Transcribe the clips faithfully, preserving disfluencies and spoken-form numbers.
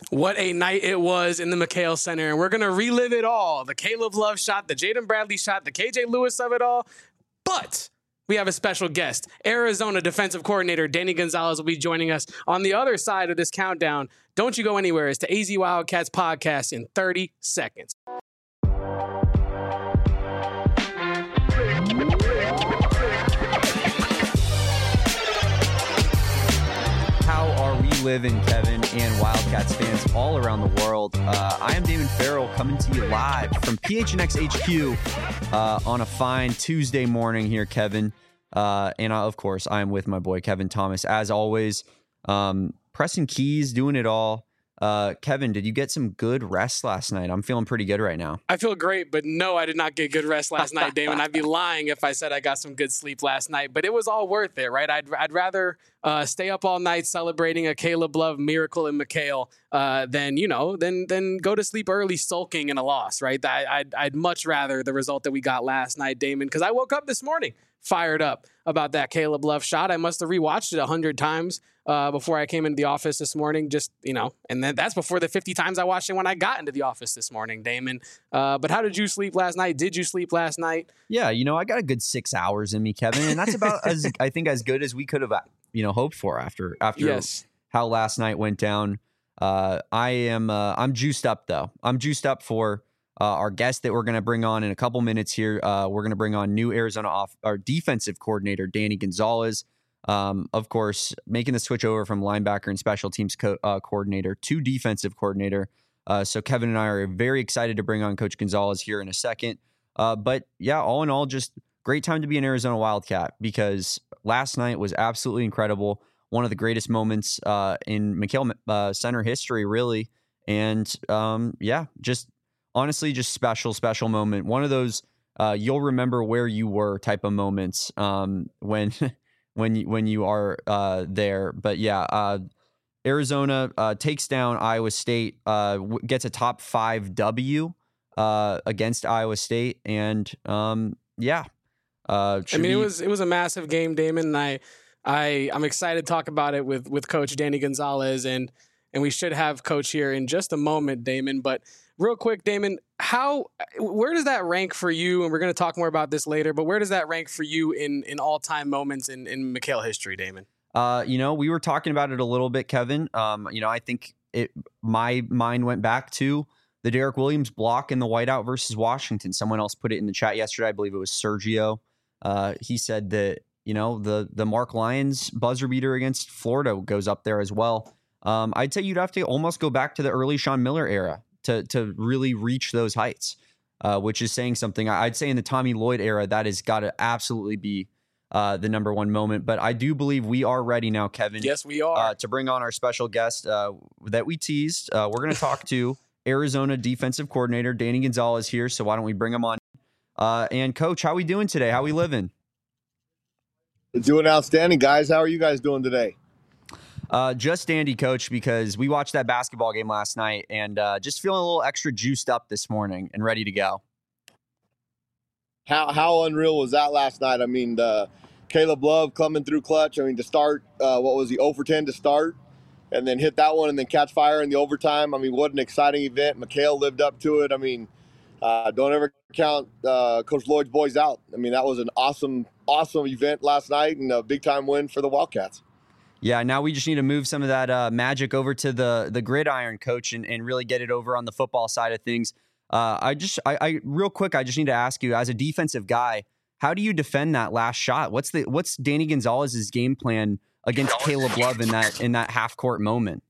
What a night it was in the McKale Center, and we're going to relive it all. The Caleb Love shot, the Jaden Bradley shot, the K J Lewis of it all. But we have a special guest. Arizona defensive coordinator Danny Gonzalez will be joining us on the other side of this countdown. Don't you go anywhere. It's the A Z Wildcats podcast in thirty seconds. Living, Kevin, and Wildcats fans all around the world. Uh, I am Damon Farrell coming to you live from P H N X H Q uh, on a fine Tuesday morning here, Kevin. Uh, and I, of course, I am with my boy, Kevin Thomas, as always, um, pressing keys, doing it all. Uh, Kevin, did you get some good rest last night? I'm feeling pretty good right now. I feel great, but no, I did not get good rest last night, Damon. I'd be lying if I said I got some good sleep last night, but it was all worth it, right? I'd I'd rather uh, stay up all night celebrating a Caleb Love miracle in McKale uh, than, you know, than, than go to sleep early sulking in a loss, right? I, I'd, I'd much rather the result that we got last night, Damon, because I woke up this morning fired up about that Caleb Love shot. I must have rewatched it a hundred times uh, before I came into the office this morning. Just, you know, and then that's before the fifty times I watched it when I got into the office this morning, Damon. Uh, but how did you sleep last night? Did you sleep last night? Yeah, you know, I got a good six hours in me, Kevin, and that's about as I think as good as we could have, you know, hoped for after after yes. how last night went down. Uh, I am uh, I'm juiced up though. I'm juiced up for. Uh, our guest that we're going to bring on in a couple minutes here. Uh, we're going to bring on new Arizona off our defensive coordinator, Danny Gonzalez. Um, of course, making the switch over from linebacker and special teams co- uh, coordinator to defensive coordinator. Uh, so Kevin and I are very excited to bring on Coach Gonzalez here in a second. Uh, but yeah, all in all, just great time to be an Arizona Wildcat because last night was absolutely incredible. One of the greatest moments uh, in McKale uh, Center history, really. And um, yeah, just honestly, just special, special moment. One of those uh, you'll remember where you were type of moments um, when when you, when you are uh, there. But yeah, uh, Arizona uh, takes down Iowa State, uh, w- gets a top five W uh, against Iowa State, and um, yeah. Uh, I mean, be- it was it was a massive game, Damon. And I I I'm excited to talk about it with with Coach Danny Gonzalez, and and we should have Coach here in just a moment, Damon, but. Real quick, Damon, how where does that rank for you? And we're going to talk more about this later, but where does that rank for you in, in all-time moments in, in McKale history, Damon? Uh, you know, we were talking about it a little bit, Kevin. Um, you know, I think it my mind went back to the Derek Williams block in the whiteout versus Washington. Someone else put it in the chat yesterday. I believe it was Sergio. Uh, he said that, you know, the the Mark Lyons buzzer beater against Florida goes up there as well. Um, I'd say you'd have to almost go back to the early Sean Miller era to to really reach those heights, uh, which is saying something. I'd say in the Tommy Lloyd era, that has got to absolutely be uh, the number one moment. But I do believe we are ready now, Kevin. Yes, we are. Uh, to bring on our special guest uh, that we teased. Uh, we're going to talk to Arizona defensive coordinator Danny Gonzalez here. So why don't we bring him on? Uh, and Coach, how we doing today? How we living? Doing outstanding, guys. How are you guys doing today? Uh, just dandy, Coach, because we watched that basketball game last night and uh, just feeling a little extra juiced up this morning and ready to go. How how unreal was that last night? I mean, the Caleb Love coming through clutch. I mean, to start, uh, what was he, zero for ten to start, and then hit that one and then catch fire in the overtime. I mean, what an exciting event. McKale lived up to it. I mean, uh, don't ever count uh, Coach Lloyd's boys out. I mean, that was an awesome, awesome event last night and a big-time win for the Wildcats. Yeah, now we just need to move some of that uh, magic over to the the gridiron, Coach, and, and really get it over on the football side of things. Uh, I just, I, I real quick, I just need to ask you, as a defensive guy, how do you defend that last shot? What's the what's Danny Gonzalez's game plan against Caleb Love in that in that half court moment?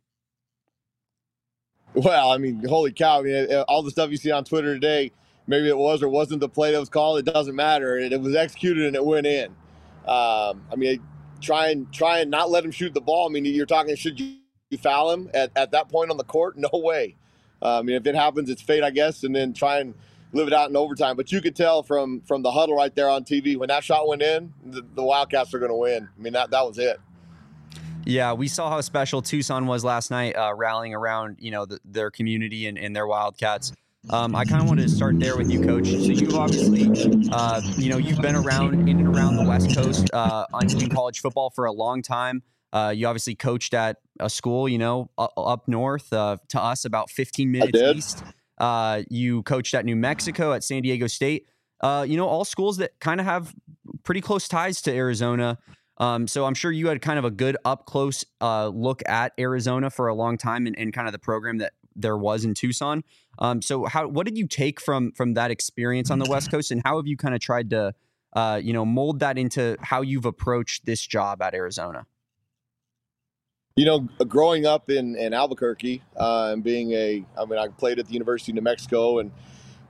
Well, I mean, holy cow! I mean, all the stuff you see on Twitter today, maybe it was or wasn't the play that was called. It doesn't matter. It, it was executed and it went in. Um, I mean. Try and try and not let him shoot the ball. I mean, you're talking, should you foul him at, at that point on the court? No way. Uh, I mean, if it happens, it's fate, I guess, and then try and live it out in overtime. But you could tell from from the huddle right there on T V, when that shot went in, the, the Wildcats are going to win. I mean, that that was it. Yeah, we saw how special Tucson was last night, uh, rallying around, you know, the, their community and, and their Wildcats. Um, I kind of wanted to start there with you, Coach. So you've obviously, uh, you know, you've been around in and around the West Coast uh, on in college football for a long time. Uh, you obviously coached at a school, you know, up, up north uh, to us, about fifteen minutes did. east. Uh, you coached at New Mexico, at San Diego State. Uh, you know, all schools that kind of have pretty close ties to Arizona. Um, so I'm sure you had kind of a good up close uh, look at Arizona for a long time, and, and kind of the program that there was in Tucson. Um, so how, what did you take from, from that experience on the West Coast, and how have you kind of tried to, uh, you know, mold that into how you've approached this job at Arizona? You know, growing up in, in Albuquerque uh, and being a, I mean, I played at the University of New Mexico, and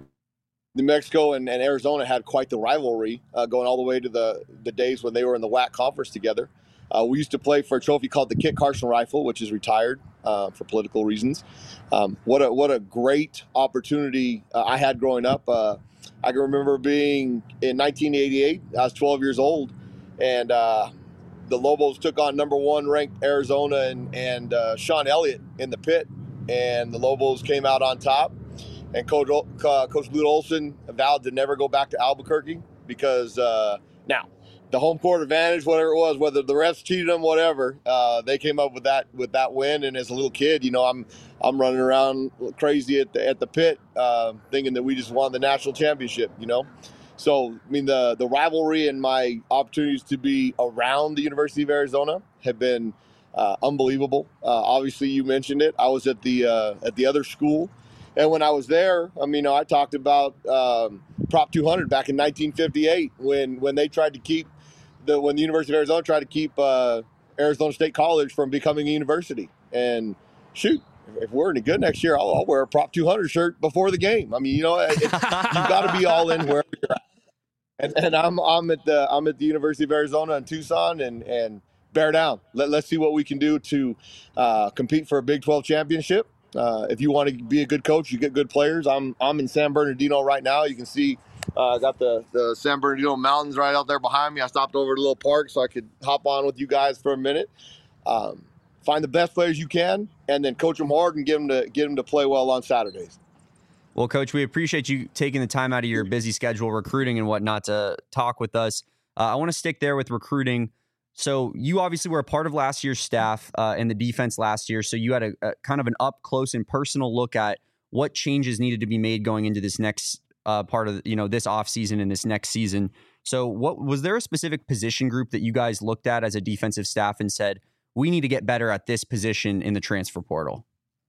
New Mexico and, and Arizona had quite the rivalry uh, going all the way to the, the days when they were in the W A C conference together. Uh, we used to play for a trophy called the Kit Carson Rifle, which is retired uh, for political reasons. Um, what a what a great opportunity uh, I had growing up. Uh, I can remember being in nineteen eighty-eight. I was twelve years old, and uh, the Lobos took on number one ranked Arizona and, and uh, Sean Elliott in the pit, and the Lobos came out on top. And Coach, uh, Coach Lute Olson vowed to never go back to Albuquerque because uh, now the home court advantage, whatever it was, whether the refs cheated them, whatever, uh, they came up with that with that win. And as a little kid, you know, I'm I'm running around crazy at the at the pit, uh, thinking that we just won the national championship. You know, so I mean the the rivalry and my opportunities to be around the University of Arizona have been uh, unbelievable. Uh, obviously, you mentioned it. I was at the uh, at the other school. And when I was there, I mean, you know, I talked about um, Prop two hundred back in nineteen fifty-eight when when they tried to keep the when the University of Arizona tried to keep uh, Arizona State College from becoming a university. And shoot, if we're any good next year, I'll, I'll wear a Prop two hundred shirt before the game. I mean, you know, it, you've got to be all in wherever you're at. And, and I'm I'm at the I'm at the University of Arizona in Tucson, and and bear down. Let let's see what we can do to uh, compete for a Big twelve championship. Uh, if you want to be a good coach, you get good players. I'm I'm in San Bernardino right now. You can see I uh, got the, the San Bernardino Mountains right out there behind me. I stopped over to a little park so I could hop on with you guys for a minute. Um, find the best players you can, and then coach them hard and get them to get them to play well on Saturdays. Well, Coach, we appreciate you taking the time out of your busy schedule, recruiting and whatnot, to talk with us. Uh, I want to stick there with recruiting. So you obviously were a part of last year's staff uh, in the defense last year. So you had a, a kind of an up close and personal look at what changes needed to be made going into this next uh, part of, you know, this offseason and this next season. So what was there a specific position group that you guys looked at as a defensive staff and said, we need to get better at this position in the transfer portal?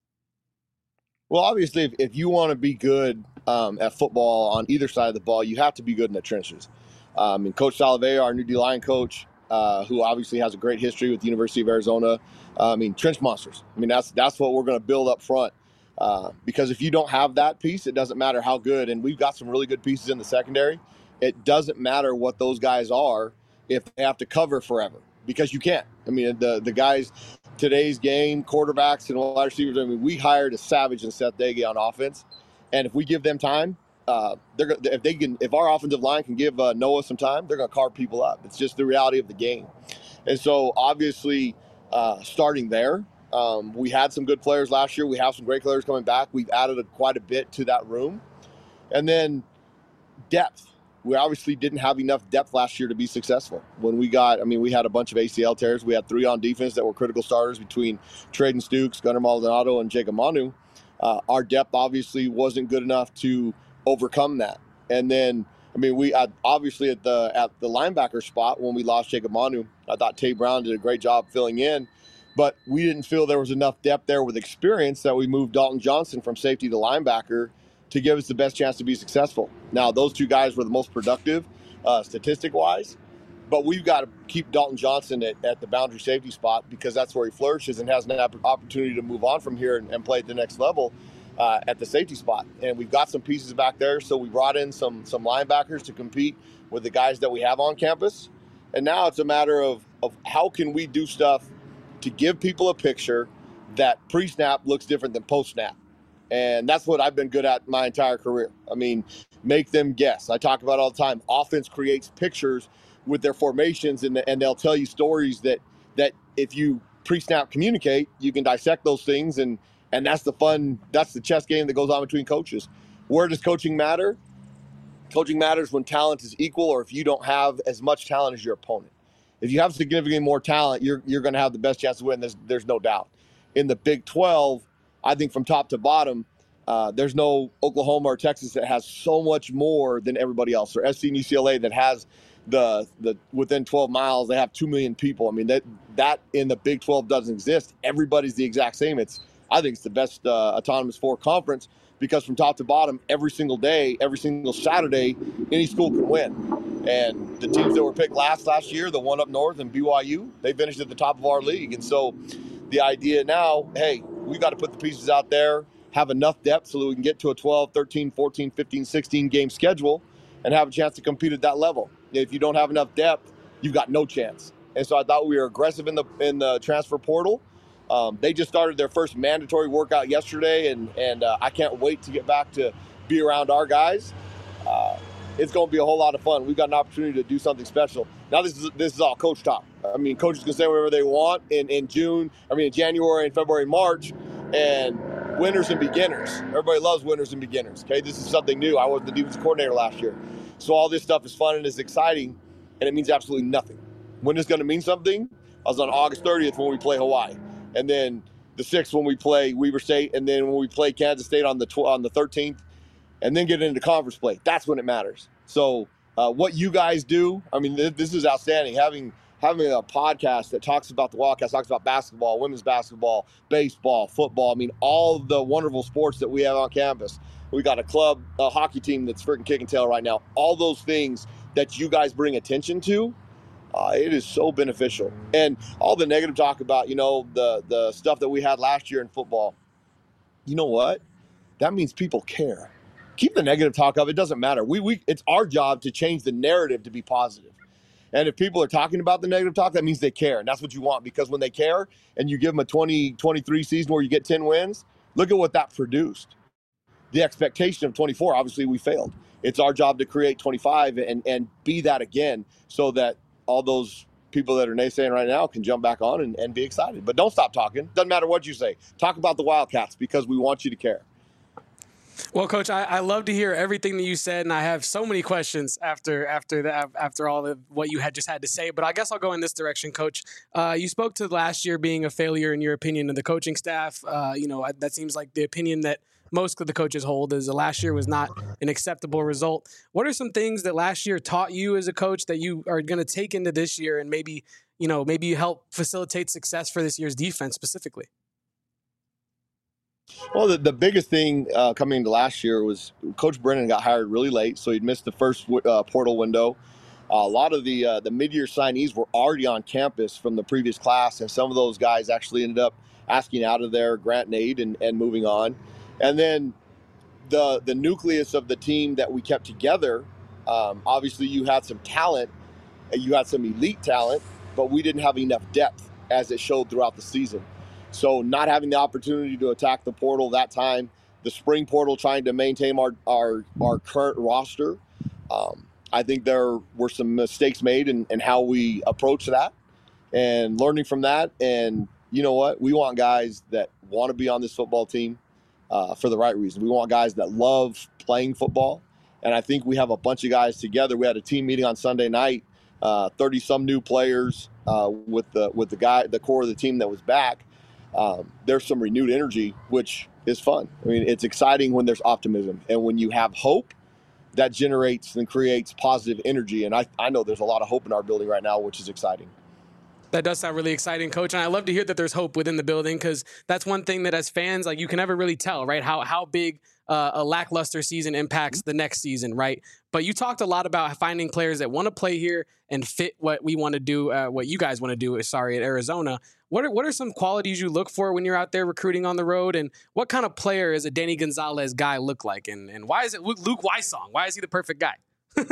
Well, obviously, if, if you want to be good um, at football on either side of the ball, you have to be good in the trenches. Um, and Coach Salavea, our new D-line coach, Uh, who obviously has a great history with the University of Arizona. Uh, I mean, trench monsters. I mean, that's that's what we're going to build up front. Uh, because if you don't have that piece, it doesn't matter how good. And we've got some really good pieces in the secondary. It doesn't matter what those guys are if they have to cover forever, because you can't. I mean, the the guys today's game, quarterbacks and wide receivers. I mean, we hired a savage in Seth Dege on offense, and if we give them time. Uh, they're if they can if our offensive line can give uh, Noah some time, they're going to carve people up. It's just the reality of the game. And so obviously uh, starting there, um, we had some good players last year. We have some great players coming back. We've added a, quite a bit to that room. And then depth. We obviously didn't have enough depth last year to be successful. When we got, I mean, we had a bunch of A C L tears. We had three on defense that were critical starters between Traden Stukes, Gunnar Maldonado, and Jacob Manu. Uh, our depth obviously wasn't good enough to overcome that. And then, I mean, we uh, obviously at the at the linebacker spot when we lost Jacob Manu, I thought Tay Brown did a great job filling in, but we didn't feel there was enough depth there with experience that we moved Dalton Johnson from safety to linebacker to give us the best chance to be successful. Now, those two guys were the most productive uh, statistic-wise, but we've got to keep Dalton Johnson at, at the boundary safety spot because that's where he flourishes and has an opportunity to move on from here and, and play at the next level. Uh, at the safety spot. And we've got some pieces back there. So we brought in some some linebackers to compete with the guys that we have on campus. And now it's a matter of, of how can we do stuff to give people a picture that pre-snap looks different than post-snap. And that's what I've been good at my entire career. I mean, make them guess. I talk about it all the time. Offense creates pictures with their formations, and, and they'll tell you stories that that if you pre-snap communicate, you can dissect those things, and And that's the fun, that's the chess game that goes on between coaches. Where does coaching matter? Coaching matters when talent is equal or if you don't have as much talent as your opponent. If you have significantly more talent, you're you're going to have the best chance to win. There's there's no doubt. In the Big twelve, I think from top to bottom, uh, there's no Oklahoma or Texas that has so much more than everybody else, or S C and U C L A that has the the within twelve miles they have two million people. I mean that that in the Big twelve doesn't exist. Everybody's the exact same. It's I think it's the best uh, autonomous four conference because from top to bottom, every single day, every single Saturday, any school can win. And the teams that were picked last last year, the one up north and B Y U, they finished at the top of our league. And so the idea now, hey, we got to put the pieces out there, have enough depth so that we can get to a twelve, thirteen, fourteen, fifteen, sixteen game schedule and have a chance to compete at that level. If you don't have enough depth, you've got no chance. And so I thought we were aggressive in the in the transfer portal. Um, they just started their first mandatory workout yesterday, and and uh, I can't wait to get back to be around our guys. Uh, it's going to be a whole lot of fun. We've got an opportunity to do something special. Now this is this is all coach talk. I mean, coaches can say whatever they want in, in June, I mean in January and February and March, and winners and beginners. Everybody loves winners and beginners. Okay, this is something new. I was the defensive coordinator last year. So all this stuff is fun and is exciting, and it means absolutely nothing. When it's going to mean something, I was on August thirtieth when we play Hawaii. And then the sixth when we play Weber State, and then when we play Kansas State on the tw- on the thirteenth, and then get into conference play. That's when it matters. So uh, what you guys do, I mean, th- this is outstanding. Having having a podcast that talks about the Wildcats, talks about basketball, women's basketball, baseball, football. I mean, all the wonderful sports that we have on campus. We got a club, a hockey team that's freaking kicking tail right now. All those things that you guys bring attention to, Uh, it is so beneficial. And all the negative talk about, you know, the the stuff that we had last year in football, you know what? That means people care. Keep the negative talk up. It doesn't matter. We we It's our job to change the narrative to be positive. And if people are talking about the negative talk, that means they care. And that's what you want, because when they care and you give them a twenty twenty-three season where you get ten wins, look at what that produced. The expectation of twenty-four, obviously we failed. It's our job to create twenty-five and, and be that again, so that all those people that are naysaying right now can jump back on and, and be excited. But don't stop talking. Doesn't matter what you say. Talk about the Wildcats, because we want you to care. Well, Coach, I, I love to hear everything that you said, and I have so many questions after after the, after all of what you had just had to say. But I guess I'll go in this direction, Coach. Uh, you spoke to last year being a failure, in your opinion, of the coaching staff. Uh, you know, that seems like the opinion that most of the coaches hold, is the last year was not an acceptable result. What are some things that last year taught you as a coach that you are going to take into this year, and maybe, you know, maybe you help facilitate success for this year's defense specifically? Well, the, the biggest thing uh, coming into last year was Coach Brennan got hired really late, so he'd missed the first uh, portal window. Uh, a lot of the uh, the mid-year signees were already on campus from the previous class, and some of those guys actually ended up asking out of there, Grant and Aid, and, and moving on. And then the the nucleus of the team that we kept together, um, obviously you had some talent, you had some elite talent, but we didn't have enough depth as it showed throughout the season. So not having the opportunity to attack the portal that time, the spring portal trying to maintain our our, our current roster, um, I think there were some mistakes made in, in how we approach that, and learning from that. And you know what? We want guys that want to be on this football team. Uh, for the right reason. We want guys that love playing football. And I think we have a bunch of guys together. We had a team meeting on Sunday night, uh, thirty some new players uh, with the with the guy, the core of the team that was back. Um, there's some renewed energy, which is fun. I mean, it's exciting when there's optimism. And when you have hope, that generates and creates positive energy. And I, I know there's a lot of hope in our building right now, which is exciting. That does sound really exciting, Coach. And I love to hear that there's hope within the building, because that's one thing that as fans, like, you can never really tell, right, how how big uh, a lackluster season impacts the next season, right? But you talked a lot about finding players that want to play here and fit what we want to do, uh, what you guys want to do, sorry, at Arizona. What are, what are some qualities you look for when you're out there recruiting on the road? And what kind of player is a Danny Gonzalez guy look like? And, and why is it Luke, Luke Weissong? Why is he the perfect guy?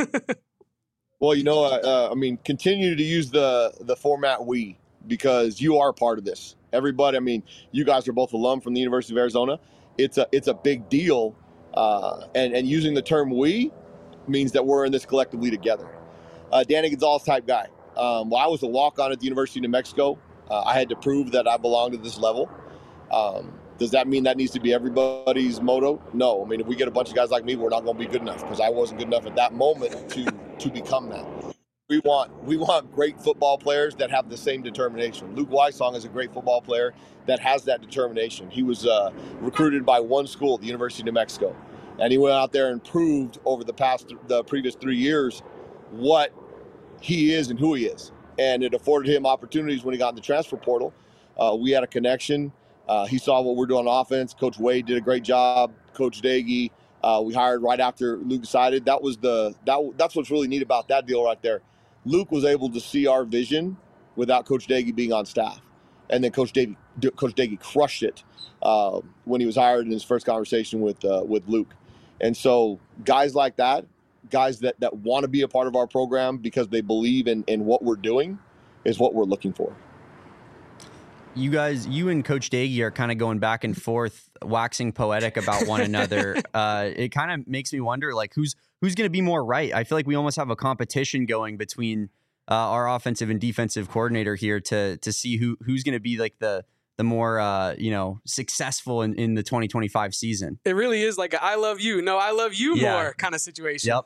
Well, you know, uh, I mean, continue to use the the format we, because you are a part of this. Everybody, I mean, you guys are both alum from the University of Arizona. It's a it's a big deal, uh, and and using the term we means that we're in this collectively together. Uh, Danny Gonzalez type guy. Um, well, I was a walk-on at the University of New Mexico. Uh, I had to prove that I belonged to this level. Um, does that mean that needs to be everybody's motto? No. I mean, if we get a bunch of guys like me, we're not going to be good enough, because I wasn't good enough at that moment to to become that. we want we want great football players that have the same determination. Luke Weissong is a great football player that has that determination. He was uh, recruited by one school, the University of New Mexico, and he went out there and proved over the past the previous three years what he is and who he is. And it afforded him opportunities when he got in the transfer portal. Uh, we had a connection. Uh, he saw what we're doing on offense. Coach Wade did a great job. Coach Daggy, uh, we hired right after Luke decided. That was the that that's what's really neat about that deal right there. Luke was able to see our vision without Coach Daggy being on staff, and then Coach Daggy Coach Daggy crushed it uh, when he was hired in his first conversation with uh, with Luke. And so guys like that, guys that, that want to be a part of our program because they believe in, in what we're doing, is what we're looking for. You guys, you and Coach Daggy are kind of going back and forth, waxing poetic about one another. Uh, it kind of makes me wonder, like, who's who's going to be more right? I feel like we almost have a competition going between uh, our offensive and defensive coordinator here to to see who who's going to be like the the more uh, you know successful in, in the twenty twenty-five season. It really is like a I love you, no, I love you Yeah. more kind of situation. Yep.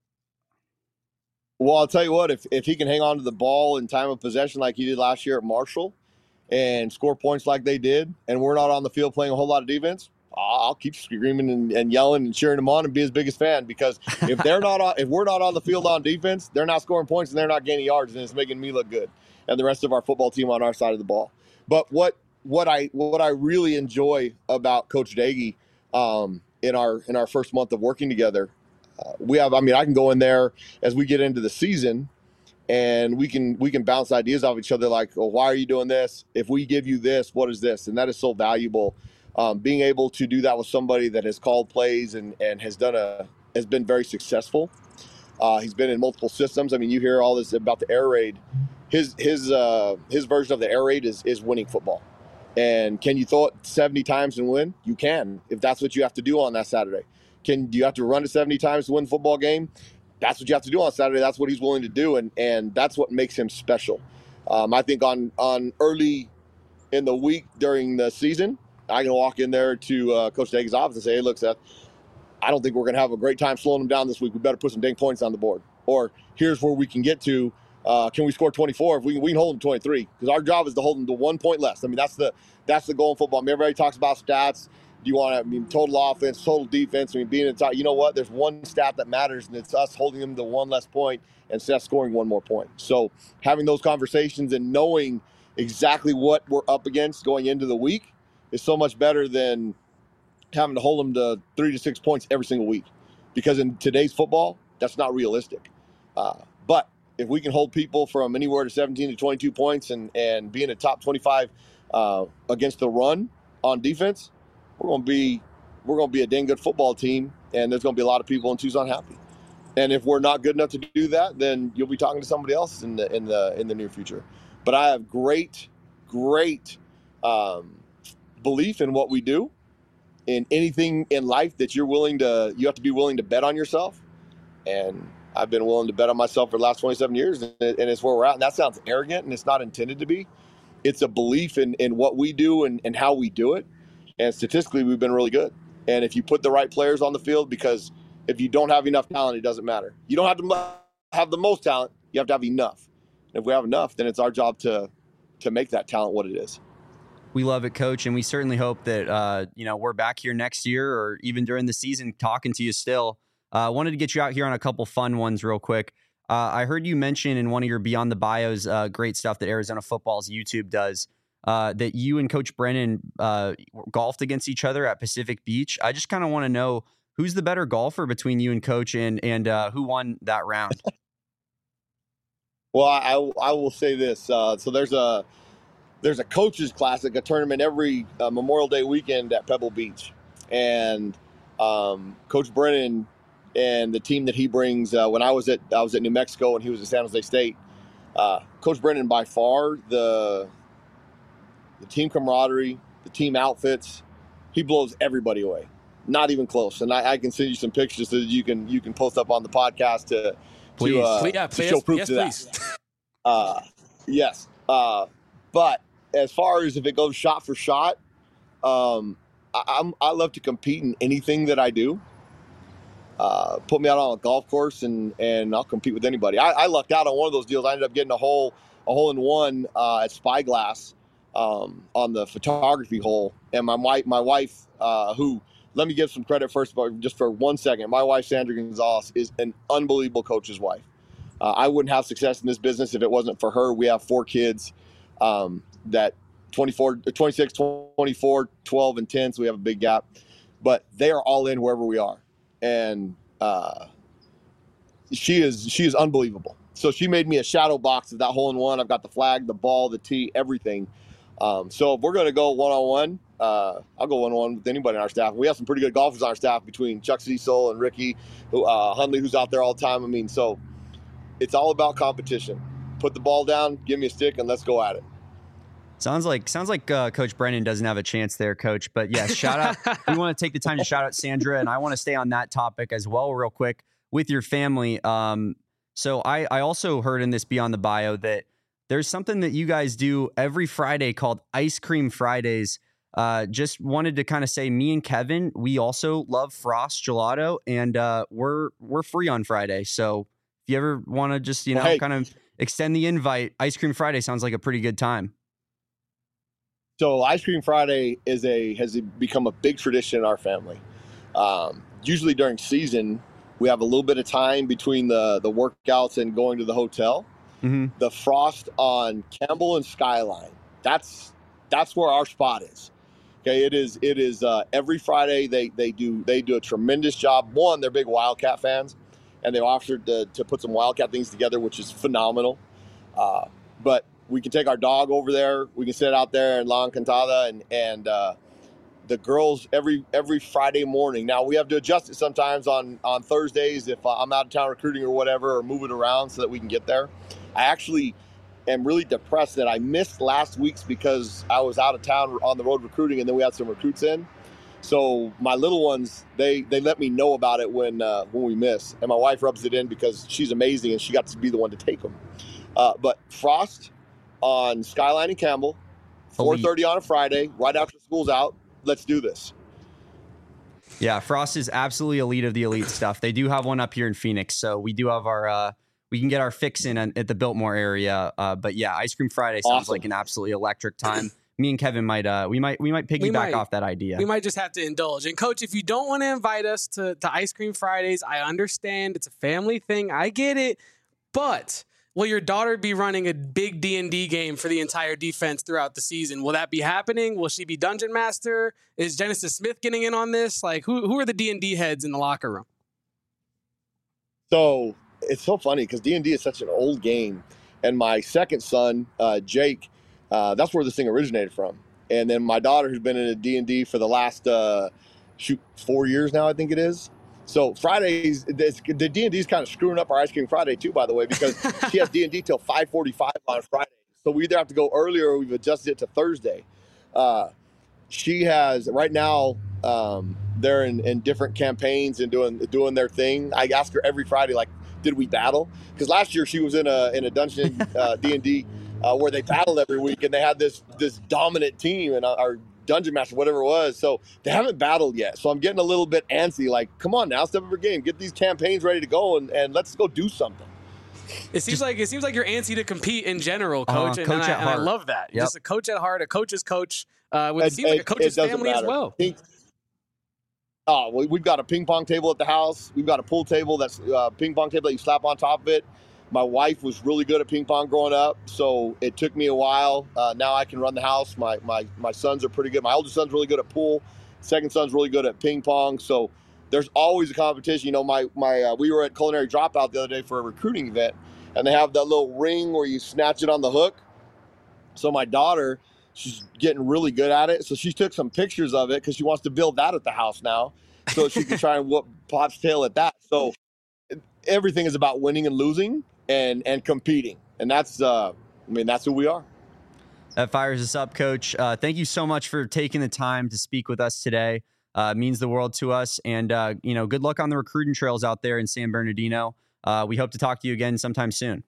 Well, I'll tell you what, if, if he can hang on to the ball in time of possession like he did last year at Marshall and score points like they did, and we're not on the field playing a whole lot of defense, I'll keep screaming and, and yelling and cheering them on and be his biggest fan, because if they're not on, if we're not on the field on defense, they're not scoring points and they're not gaining yards, and it's making me look good and the rest of our football team on our side of the ball. But what what I what I really enjoy about Coach Daggy um, in our in our first month of working together, uh, we have I mean I can go in there as we get into the season, and we can we can bounce ideas off each other, like, oh, why are you doing this? If we give you this, what is this? And that is so valuable. Um, being able to do that with somebody that has called plays and, and has done a has been very successful. Uh, he's been in multiple systems. I mean, you hear all this about the air raid. His his uh, his version of the air raid is is winning football. And can you throw it seventy times and win? You can, if that's what you have to do on that Saturday. Can do you have to run it seventy times to win the football game? That's what you have to do on Saturday. That's what he's willing to do, and and that's what makes him special. Um, I think on on early in the week during the season, I can walk in there to uh, Coach Daggy's office and say, hey, look, Seth, I don't think we're going to have a great time slowing them down this week. We better put some dang points on the board. Or here's where we can get to. Uh, can we score twenty-four? If we, we can hold them twenty-three, because our job is to hold them to one point less. I mean, that's the that's the goal in football. I mean, everybody talks about stats. Do you want to, I mean, total offense, total defense? I mean, being in the top, you know what? There's one stat that matters, and it's us holding them to one less point and Seth scoring one more point. So having those conversations and knowing exactly what we're up against going into the week is so much better than having to hold them to three to six points every single week, because in today's football, that's not realistic. Uh, but if we can hold people from anywhere to seventeen to twenty-two points and, and be in the top twenty-five uh, against the run on defense, we're going to be we're going to be a dang good football team, and there's going to be a lot of people in Tucson happy. And if we're not good enough to do that, then you'll be talking to somebody else in the in the in the near future. But I have great, great um, belief in what we do. In anything in life that you're willing to, you have to be willing to bet on yourself. And I've been willing to bet on myself for the last twenty-seven years, and it's where we're at. And that sounds arrogant, and it's not intended to be. It's a belief in, in what we do and, and how we do it. And statistically, we've been really good. And if you put the right players on the field, because if you don't have enough talent, it doesn't matter. You don't have to have the most talent. You have to have enough. And if we have enough, then it's our job to to make that talent what it is. We love it, Coach, and we certainly hope that uh, you know we're back here next year or even during the season talking to you still. I uh, wanted to get you out here on a couple fun ones real quick. Uh, I heard you mention in one of your Beyond the Bios uh, great stuff that Arizona Football's YouTube does uh, that you and Coach Brennan uh, golfed against each other at Pacific Beach. I just kind of want to know who's the better golfer between you and Coach, and and uh, who won that round. Well, I, I will say this. Uh, so there's a there's a coaches classic, a tournament every uh, Memorial Day weekend at Pebble Beach, and um, Coach Brennan and the team that he brings. Uh, when I was at I was at New Mexico and he was at San Jose State. Uh, Coach Brennan, by far the the team camaraderie, the team outfits, he blows everybody away. Not even close. And I, I can send you some pictures so that you can you can post up on the podcast to. Please, to, uh, please, yeah, to please, show proof yes, to please. that. Uh, yes. Uh, but as far as if it goes shot for shot, um, I, I'm, I love to compete in anything that I do. uh, put me out on a golf course, and and I'll compete with anybody. I, I lucked out on one of those deals. I ended up getting a hole a hole in one uh, at Spyglass um, on the photography hole, and my wife my wife uh, who. Let me give some credit first, but just for one second. My wife, Sandra Gonzalez, is an unbelievable coach's wife. Uh, I wouldn't have success in this business if it wasn't for her. We have four kids um, that twenty-four, twenty-six, twenty-four, twelve, and ten, so we have a big gap. But they are all in wherever we are. And uh, she is she is unbelievable. So she made me a shadow box of that hole in one. I've got the flag, the ball, the tee, everything. Um, so if we're going to go one-on-one, uh, I'll go one-on-one with anybody on our staff. We have some pretty good golfers on our staff between Chuck Cecil and Ricky, who, uh, Hundley, who's out there all the time. I mean, so it's all about competition. Put the ball down, give me a stick, and let's go at it. Sounds like sounds like uh, Coach Brennan doesn't have a chance there, Coach. But yeah, shout out. We want to take the time to shout out Sandra, and I want to stay on that topic as well, real quick, with your family. Um, so I, I also heard in this Beyond the Bio that there's something that you guys do every Friday called Ice Cream Fridays. Uh, just wanted to kind of say, me and Kevin, we also love Frost Gelato, and uh, we're we're free on Friday. So if you ever want to just you know Hey. kind of extend the invite, Ice Cream Friday sounds like a pretty good time. So Ice Cream Friday is a has become a big tradition in our family. Um, usually during season, we have a little bit of time between the the workouts and going to the hotel. Mm-hmm. The Frost on Campbell and Skyline. That's that's where our spot is. Okay, it is it is uh, every Friday they they do they do a tremendous job. One, they're big Wildcat fans, and they offered to, to put some Wildcat things together, which is phenomenal. Uh, but we can take our dog over there. We can sit out there in La Encantada, and and uh, the girls every every Friday morning. Now we have to adjust it sometimes on on Thursdays if I'm out of town recruiting or whatever, or moving around so that we can get there. I actually am really depressed that I missed last week's because I was out of town on the road recruiting, and then we had some recruits in. So my little ones, they they let me know about it when uh, when we miss, and my wife rubs it in because she's amazing and she got to be the one to take them. Uh, but Frost on Skyline and Campbell, four thirty on a Friday, right after school's out. Let's do this. Yeah, Frost is absolutely elite of the elite stuff. They do have one up here in Phoenix, so we do have our uh, we can get our fix in at the Biltmore area. Uh, but yeah, Ice Cream Friday sounds Awesome. like an absolutely electric time. Me and Kevin might uh we might we might piggyback We might. off that idea. We might just have to indulge. And Coach, if you don't want to invite us to, to Ice Cream Fridays, I understand. It's a family thing. I get it. But will your daughter be running a big D and D game for the entire defense throughout the season? Will that be happening? Will she be Dungeon Master? Is Genesis Smith getting in on this? Like, who who are the D and D heads in the locker room? So it's so funny because D and D is such an old game. And my second son, uh, Jake, uh, that's where this thing originated from. And then my daughter, who's been in a D and D for the last, uh, shoot, four years now, I think it is. So Fridays, this, the D and D is kind of screwing up our Ice Cream Friday too, by the way, because she has D and D till five forty-five on Friday. So we either have to go earlier or we've adjusted it to Thursday. Uh, she has, right now, um, they're in, in different campaigns and doing doing their thing. I ask her every Friday, like, did we battle? Because last year she was in a in a dungeon uh, D and D uh, where they battled every week, and they had this this dominant team and our dungeon master, whatever it was. So they haven't battled yet. So I'm getting a little bit antsy. Like, come on now, step up your game, get these campaigns ready to go, and, and let's go do something. It seems Just- like it seems like you're antsy to compete in general, Uh, Coach, and, coach and, I, at and I heart. love that. Yep. Just a coach at heart, a coach's coach. Uh, with, it It- seems like a it- coach's it doesn't family as matter. well. Ping- Oh, we- we've got a ping pong table at the house. We've got a pool table that's a uh, ping pong table that you slap on top of it. My wife was really good at ping pong growing up, so it took me a while. Uh, now I can run the house. My, my my sons are pretty good. My oldest son's really good at pool. Second son's really good at ping pong. So there's always a competition. You know, my my uh, we were at Culinary Dropout the other day for a recruiting event, and they have that little ring where you snatch it on the hook. So my daughter, she's getting really good at it. So she took some pictures of it because she wants to build that at the house now, so she can try and whoop Pop's tail at that. So everything is about winning and losing and and competing, and that's uh, I mean that's who we are. That fires us up, Coach. Uh, thank you so much for taking the time to speak with us today. Uh, it means the world to us, and uh, you know, good luck on the recruiting trails out there in San Bernardino. Uh, we hope to talk to you again sometime soon.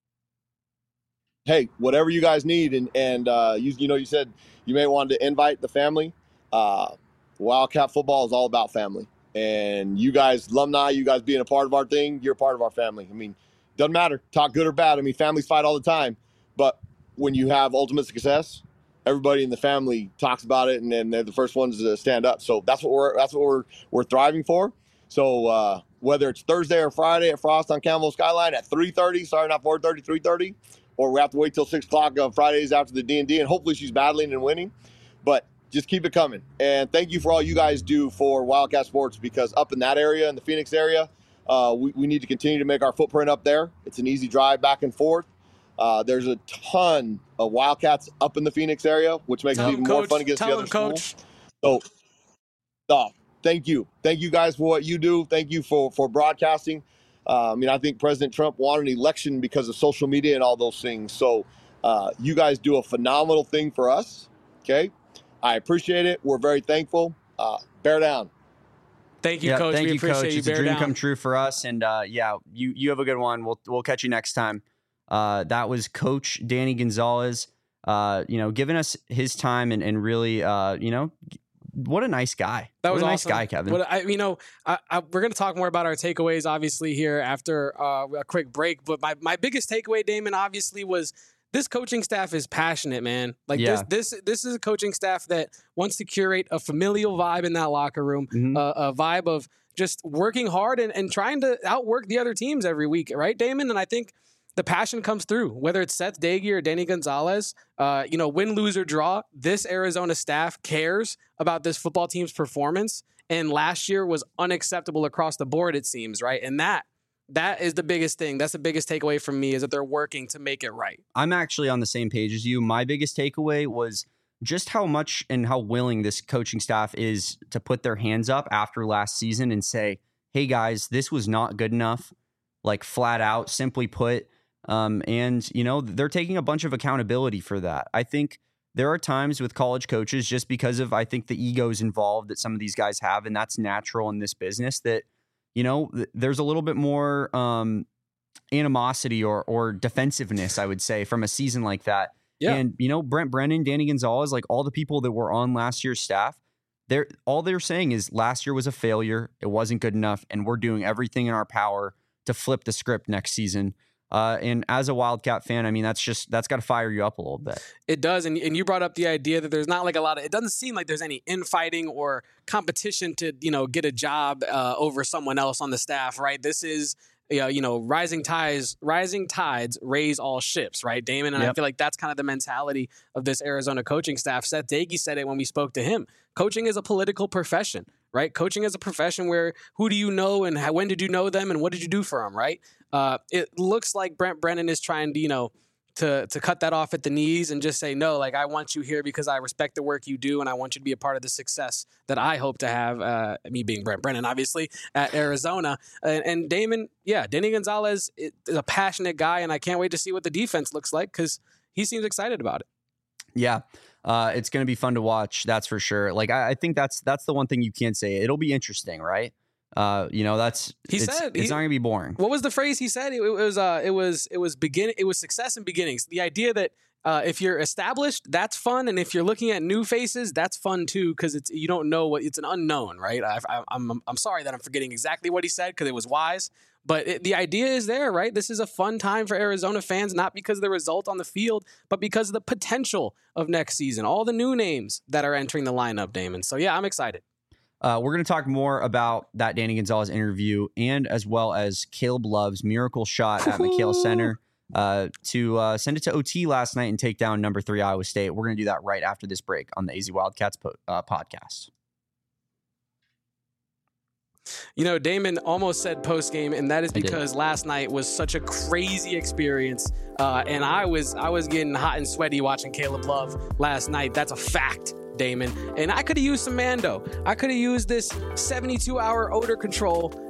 Hey, whatever you guys need, and and uh, you you know you said you may want to invite the family. Uh, Wildcat football is all about family, And you guys, alumni, you guys being a part of our thing, you're a part of our family. I mean, doesn't matter, talk good or bad. I mean, families fight all the time. But when you have ultimate success, everybody in the family talks about it, and then they're the first ones to stand up. So that's what we're that's what we're we're thriving for. So uh, whether it's Thursday or Friday at Frost on Campbell Skyline at three thirty, sorry, not four thirty, three thirty, or we have to wait till six o'clock on Fridays after the D and D, and hopefully she's battling and winning. But just keep it coming. And thank you for all you guys do for Wildcat Sports, because up in that area, in the Phoenix area, uh, we, we need to continue to make our footprint up there. It's an easy drive back and forth. Uh, there's a ton of Wildcats up in the Phoenix area, which makes Tell it even him, more coach. fun against Tell the other him, schools. coach. So, uh, thank you. Thank you guys for what you do. Thank you for, for broadcasting. Uh, I mean, I think President Trump wanted an election because of social media and all those things. So uh, you guys do a phenomenal thing for us, okay? I appreciate it. We're very thankful. Uh, bear down. Thank you, yeah, coach. Thank we you, appreciate coach. you. It's a Bear dream down. come true for us. And uh, yeah, you you have a good one. We'll we'll catch you next time. Uh, that was Coach Danny Gonzalez. Uh, you know, giving us his time and and really, uh, you know, what a nice guy. That what was a nice awesome. guy, Kevin. What I, you know, I, I, we're going to talk more about our takeaways, obviously, here after uh, a quick break. But my, my biggest takeaway, Damon, obviously, was this coaching staff is passionate, man. Like Yeah. this, this, this is a coaching staff that wants to curate a familial vibe in that locker room, Mhm. uh, a vibe of just working hard and, and trying to outwork the other teams every week, right, Damon? And I think the passion comes through, whether it's Seth Dagey or Danny Gonzalez. Uh, you know, win, lose, or draw, this Arizona staff cares about this football team's performance. And last year was unacceptable across the board, it seems, right? And that that is the biggest thing. That's the biggest takeaway from me, is that they're working to make it right. I'm actually on the same page as you. My biggest takeaway was just how much and how willing this coaching staff is to put their hands up after last season and say, hey guys, this was not good enough, like flat out, simply put. Um, and, you know, they're taking a bunch of accountability for that. I think there are times with college coaches, just because of, I think, the egos involved that some of these guys have, and that's natural in this business, that, you know, th- there's a little bit more um, animosity or or defensiveness, I would say, from a season like that. Yeah. And, you know, Brent Brennan, Danny Gonzalez, like all the people that were on last year's staff, they're all they're saying is last year was a failure. It wasn't good enough. And we're doing everything in our power to flip the script next season. Uh, and as a Wildcat fan, I mean, that's just, that's got to fire you up a little bit. It does. And, and you brought up the idea that there's not like a lot of, it doesn't seem like there's any infighting or competition to, you know, get a job uh, over someone else on the staff, right? This is, you know, you know, rising tides, rising tides raise all ships, right, Damon? And Yep. I feel like that's kind of the mentality of this Arizona coaching staff. Seth Dagey said it when we spoke to him. Coaching is a political profession, right? Coaching is a profession where who do you know and how, when did you know them and what did you do for them, right? Uh, it looks like Brent Brennan is trying to, you know, to to cut that off at the knees and just say, no, like I want you here because I respect the work you do and I want you to be a part of the success that I hope to have, uh, me being Brent Brennan, obviously, at Arizona. And, and Damon, yeah, Danny Gonzalez is a passionate guy, and I can't wait to see what the defense looks like because he seems excited about it. Yeah. Uh, it's going to be fun to watch. That's for sure. Like, I, I think that's, that's the one thing you can't say. It'll be interesting, right? Uh, you know, that's, He it's, said it's he- not gonna be boring. What was the phrase he said? It, it was uh, it was it was begin it was success in beginnings. The idea that uh, if you're established, that's fun, and if you're looking at new faces, that's fun too, because it's you don't know what it's an unknown, right? I, I, I'm I'm sorry that I'm forgetting exactly what he said because it was wise, but it, the idea is there, right? This is a fun time for Arizona fans, not because of the result on the field, but because of the potential of next season. All the new names that are entering the lineup, Damon. So yeah, I'm excited. Uh, we're going to talk more about that Danny Gonzalez interview and as well as Caleb Love's miracle shot at McKale Center uh, to uh, send it to O T last night and take down number three Iowa State. We're going to do that right after this break on the A Z Wildcats po- uh, podcast. You know, Damon almost said post game, and that is I did. because last night was such a crazy experience, uh, and I was I was getting hot and sweaty watching Caleb Love last night. That's a fact, Damon. And I could have used some Mando. I could have used this seventy-two hour odor control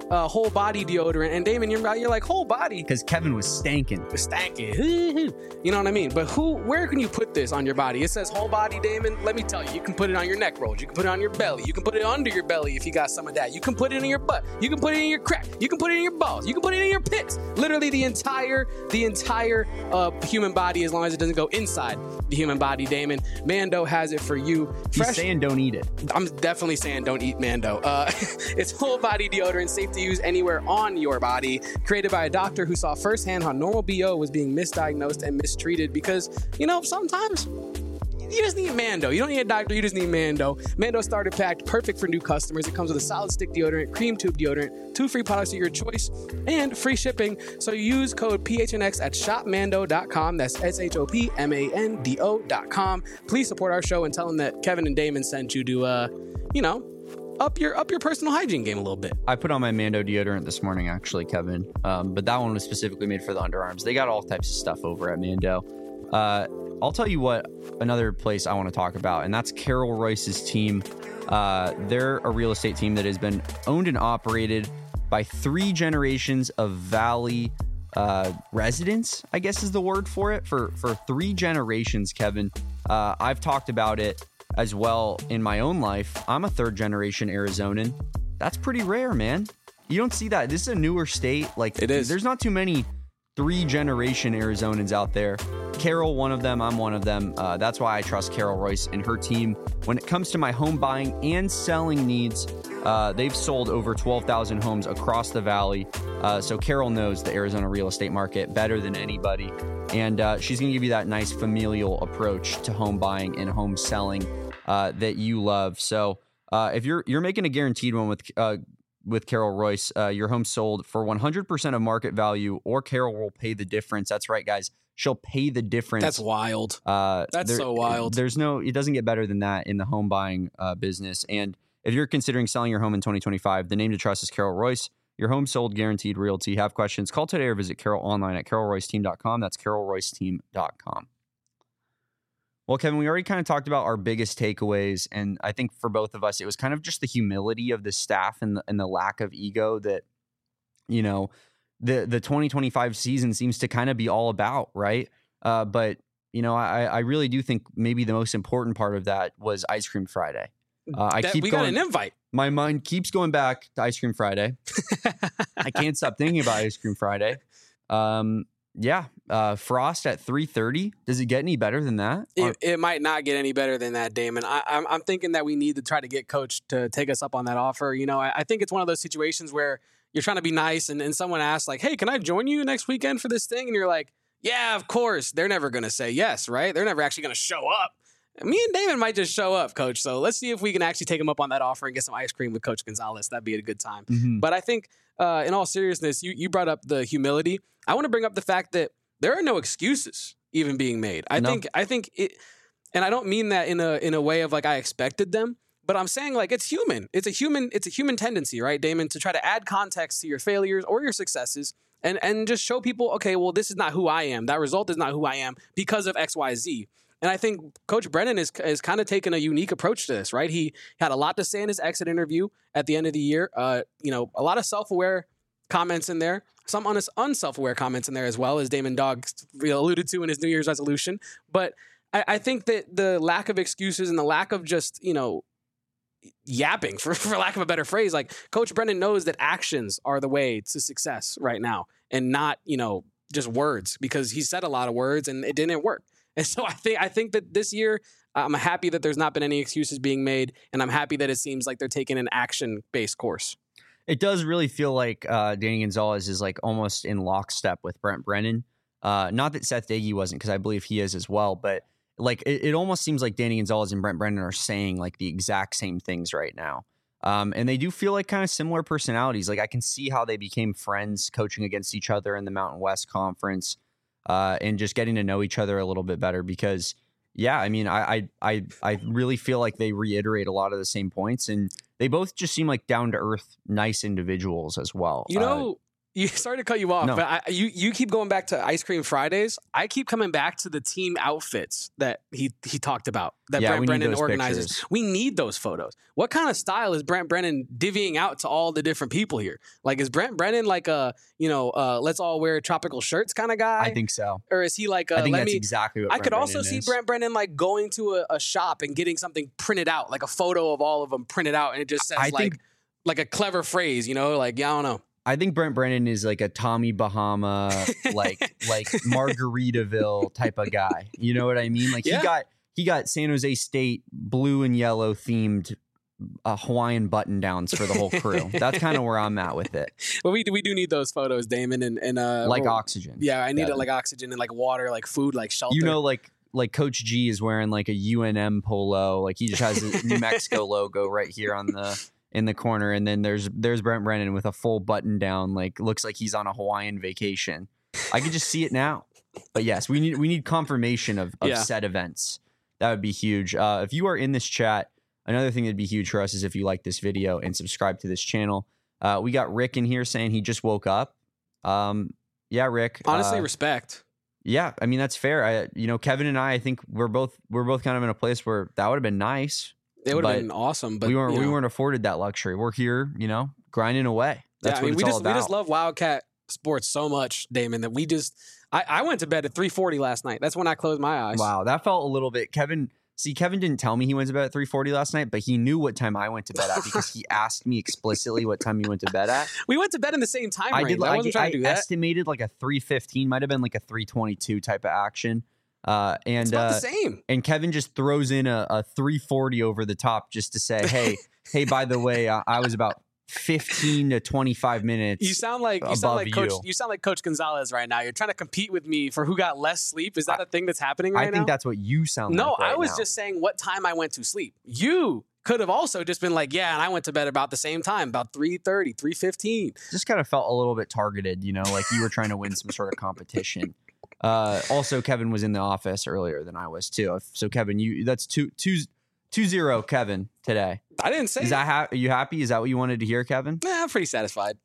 uh, whole body deodorant. And Damon, you're, you're like, whole body? Because Kevin was stanking. Stanking. You know what I mean? But who? Where can you put this on your body? It says whole body, Damon. Let me tell you, you can put it on your neck rolls. You can put it on your belly. You can put it under your belly if you got some of that. You can put it in your butt. You can put it in your crack. You can put it in your balls. You can put it in your pits. Literally the entire, the entire uh, human body, as long as it doesn't go inside the human body, Damon. Mando has it for you. Fresh. He's saying don't eat it. I'm definitely saying don't eat Mando. Uh, it's whole body deodorant, safe to use anywhere on your body. Created by a doctor who saw firsthand how normal B O was being misdiagnosed and mistreated because, you know, sometimes you just need Mando. You don't need a doctor. You just need Mando. Mando starter pack, perfect for new customers. It comes with a solid stick deodorant, cream tube deodorant, two free products of your choice, and free shipping. So you use code P H N X at shop mando dot com. That's S H O P M A N D O dot com. Please support our show and tell them that Kevin and Damon sent you to, uh, you know, up your up your personal hygiene game a little bit. I put on my Mando deodorant this morning, actually, Kevin. Um, but that one was specifically made for the underarms. They got all types of stuff over at Mando. Uh, I'll tell you what, another place I want to talk about, and that's Carol Royce's team. Uh, they're a real estate team that has been owned and operated by three generations of Valley uh, residents, I guess is the word for it, for, for three generations, Kevin. Uh, I've talked about it as well in my own life. I'm a third generation Arizonan. That's pretty rare, man. You don't see that. This is a newer state. Like, it is. There's not too many three generation Arizonans out there. Carol, one of them. I'm one of them. Uh, that's why I trust Carol Royce and her team. When it comes to my home buying and selling needs, uh, they've sold over twelve thousand homes across the Valley. Uh, so Carol knows the Arizona real estate market better than anybody. And uh, she's going to give you that nice familial approach to home buying and home selling uh, that you love. So uh, if you're you're making a guaranteed one with uh, with Carol Royce, uh, your home sold for one hundred percent of market value, or Carol will pay the difference. That's right, guys. She'll pay the difference. That's wild. Uh, That's there, so wild. There's no, it doesn't get better than that in the home buying uh, business. And if you're considering selling your home in twenty twenty-five, the name to trust is Carol Royce. Your home sold, guaranteed realty. Have questions? Call today or visit Carol online at carol royce team dot com. That's carol royce team dot com. Well, Kevin, we already kind of talked about our biggest takeaways, and I think for both of us, it was kind of just the humility of the staff and the, and the lack of ego that, you know, the the twenty twenty-five season seems to kind of be all about, right? Uh, but, you know, I, I really do think maybe the most important part of that was Ice Cream Friday. Uh, I that, keep we going, got an invite. My mind keeps going back to Ice Cream Friday. I can't stop thinking about Ice Cream Friday. Um, yeah, uh, Frost at three thirty. Does it get any better than that? It, it might not get any better than that, Damon. I, I'm, I'm thinking that we need to try to get Coach to take us up on that offer. You know, I, I think it's one of those situations where you're trying to be nice and, and someone asks like, hey, can I join you next weekend for this thing? And you're like, yeah, of course. They're never going to say yes, right? They're never actually going to show up. Me and Damon might just show up, Coach. So let's see if we can actually take him up on that offer and get some ice cream with Coach Gonzalez. That'd be a good time. Mm-hmm. But I think uh, in all seriousness, you, you brought up the humility. I want to bring up the fact that there are no excuses even being made. I No. think I think it, and I don't mean that in a in a way of like I expected them, but I'm saying like it's human. It's a human it's a human tendency, right, Damon, to try to add context to your failures or your successes and and just show people, okay, well, this is not who I am. That result is not who I am because of X, Y, Z. And I think Coach Brennan is is kind of taking a unique approach to this, right? He had a lot to say in his exit interview at the end of the year. Uh, you know, a lot of self-aware comments in there, some un- unself-aware comments in there as well, as Damon Dog alluded to in his New Year's resolution. But I, I think that the lack of excuses and the lack of just, you know, yapping, for, for lack of a better phrase, like Coach Brennan knows that actions are the way to success right now and not, you know, just words, because he said a lot of words and it didn't work. And so I think I think that this year, I'm happy that there's not been any excuses being made, and I'm happy that it seems like they're taking an action-based course. It does really feel like uh, Danny Gonzalez is like almost in lockstep with Brent Brennan. Uh, not that Seth Doege wasn't, because I believe he is as well, but like it, it almost seems like Danny Gonzalez and Brent Brennan are saying like the exact same things right now. Um, and they do feel like kind of similar personalities. Like I can see how they became friends coaching against each other in the Mountain West Conference. Uh, and just getting to know each other a little bit better, because, yeah, I mean, I, I I I really feel like they reiterate a lot of the same points, and they both just seem like down to earth, nice individuals as well. You know, uh, You sorry to cut you off, No. but I, you you keep going back to Ice Cream Fridays. I keep coming back to the team outfits that he he talked about that Yeah, Brent we need Brennan those organizes. pictures. We need those photos. What kind of style is Brent Brennan divvying out to all the different people here? Like, is Brent Brennan like a you know uh, let's all wear tropical shirts kind of guy? I think so. Or is he like a, I think let that's me? exactly what I Brent could also Brennan see is. Brent Brennan like going to a, a shop and getting something printed out, like a photo of all of them printed out, and it just says I like think- like a clever phrase, you know, like yeah, I don't know. I think Brent Brennan is like a Tommy Bahama, like like Margaritaville type of guy. You know what I mean? Like Yeah. he got he got San Jose State blue and yellow themed uh, Hawaiian button downs for the whole crew. That's kind of where I'm at with it. Well, we we do need those photos, Damon, and and uh, Like well, oxygen. Yeah, I need it Devin. like oxygen and like water, like food, like shelter. You know, like like Coach G is wearing like a U N M polo. Like he just has a New Mexico logo right here on the in the corner, and then there's there's Brent Brennan with a full button down, like looks like he's on a Hawaiian vacation. I can just see it now. But yes, we need we need confirmation of, of Yeah. said events. That would be huge. Uh, if you are in this chat, another thing that'd be huge for us is if you like this video and subscribe to this channel. Uh, we got Rick in here saying he just woke up. Um, yeah, Rick. honestly, uh, respect. yeah, I mean that's fair. I, you know, Kevin and I, I think we're both we're both kind of in a place where that would have been nice. It would have but been awesome, but we weren't you we know. weren't afforded that luxury. We're here, you know, grinding away. That's yeah, I what mean, it's we all just about. we just love Wildcat sports so much, Damon, that we just. I, I went to bed at three forty last night. That's when I closed my eyes. Wow, that felt a little bit. Kevin, see, Kevin didn't tell me he went to bed at three forty last night, but he knew what time I went to bed at because he asked me explicitly what time he went to bed at. We went to bed in the same time I range. did. I I, wasn't trying I to do that. estimated like a three fifteen, might have been like a three twenty-two type of action. Uh, and It's about uh, the same. and Kevin just throws in a, a three forty over the top just to say, hey, hey, by the way, I, I was about fifteen to twenty-five minutes. You sound like you sound above like Coach. you. You sound like Coach Gonzalez right now. You're trying to compete with me for who got less sleep. Is that I- a thing that's happening I right think now? that's what you sound No, like. right I was now. just saying what time I went to sleep. You could have also just been like, yeah, and I went to bed about the same time, about three thirty, three fifteen. just kind of felt a little bit targeted, you know, like you were trying to win some sort of competition. Uh, also, Kevin was in the office earlier than I was too. So, Kevin, you that's two two two zero, Kevin today. I didn't say Is that ha- are you happy? Is that what you wanted to hear, Kevin? Eh, I'm pretty satisfied.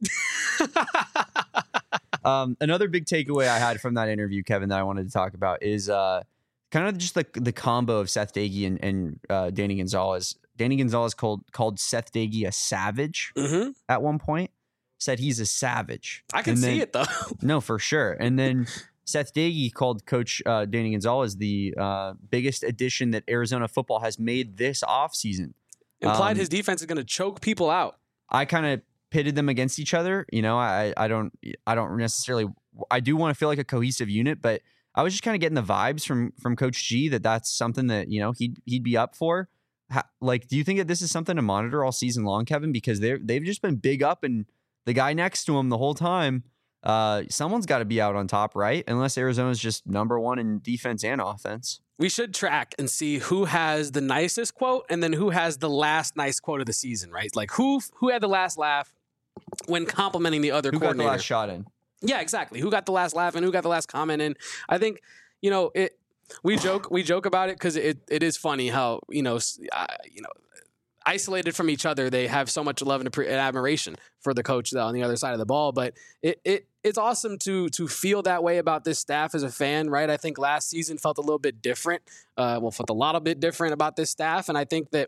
Um, another big takeaway I had from that interview, Kevin, that I wanted to talk about is uh, kind of just the the combo of Seth Dagey and, and uh, Danny Gonzalez. Danny Gonzalez called called Seth Dagey a savage hmm at one point. Said he's a savage. I can And see then- it though. No, for sure. And then Seth Dagey called Coach uh, Danny Gonzalez the uh, biggest addition that Arizona football has made this offseason. Implied Um, his defense is going to choke people out. I kind of pitted them against each other. You know, I I don't I don't necessarily I do want to feel like a cohesive unit, but I was just kind of getting the vibes from from Coach G that that's something that you know he'd he'd be up for. Ha, like, do you think that this is something to monitor all season long, Kevin? Because they they've just been big up and the guy next to him the whole time. Uh, someone's got to be out on top, right? Unless Arizona's just number one in defense and offense. We should track and see who has the nicest quote and then who has the last nice quote of the season, right? Like who who had the last laugh when complimenting the other Who got the coordinator. last shot in? Yeah, exactly. Who got the last laugh and who got the last comment? And I think, you know, it. We joke, we joke about it because it, it is funny how you know, s- uh, you know, isolated from each other, they have so much love and, appre- and admiration for the coach on the other side of the ball. But it it it's awesome to to feel that way about this staff as a fan, right? I think last season felt a little bit different. Uh, well, felt a lot of bit different about this staff, and I think that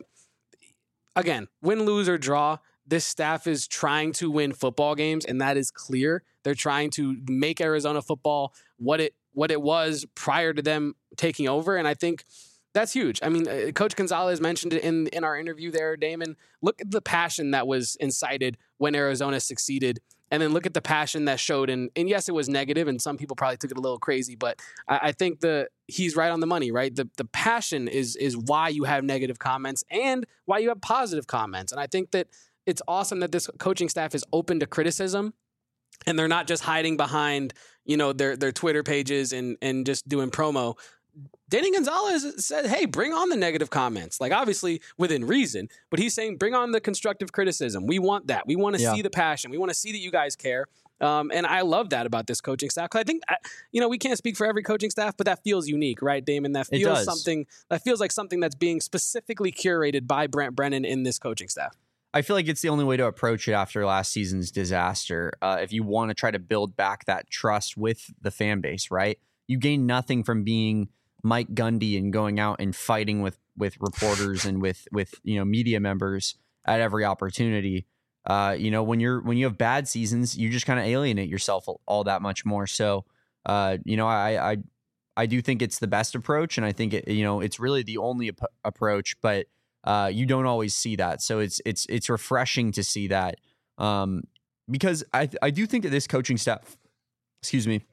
again, win, lose, or draw, this staff is trying to win football games, and that is clear. They're trying to make Arizona football what it what it was prior to them taking over, and I think that's huge. I mean, uh, Coach Gonzalez mentioned it in in our interview there, Damon. Look at the passion that was incited when Arizona succeeded, and then look at the passion that showed. And and yes, it was negative, and some people probably took it a little crazy, but I, I think the he's right on the money, right? The the passion is is why you have negative comments and why you have positive comments, and I think that it's awesome that this coaching staff is open to criticism. And they're not just hiding behind, you know, their their Twitter pages and and just doing promo. Danny Gonzalez said, hey, bring on the negative comments. Like, obviously, within reason. But he's saying, bring on the constructive criticism. We want that. We want to Yeah. see the passion. We want to see that you guys care. Um, and I love that about this coaching staff. Because I think, I- you know, we can't speak for every coaching staff, but that feels unique, right, Damon? That It feels does. something, that feels like something that's being specifically curated by Brent Brennan in this coaching staff. I feel like it's the only way to approach it after last season's disaster. Uh, if you want to try to build back that trust with the fan base, right? You gain nothing from being Mike Gundy and going out and fighting with with reporters and with with you know media members at every opportunity. Uh, you know, when you're when you have bad seasons, you just kind of alienate yourself all that much more. So, uh, you know, I I I do think it's the best approach, and I think it you know it's really the only ap- approach, but. Uh, you don't always see that, so it's it's it's refreshing to see that, um, because I I do think that this coaching staff, excuse me,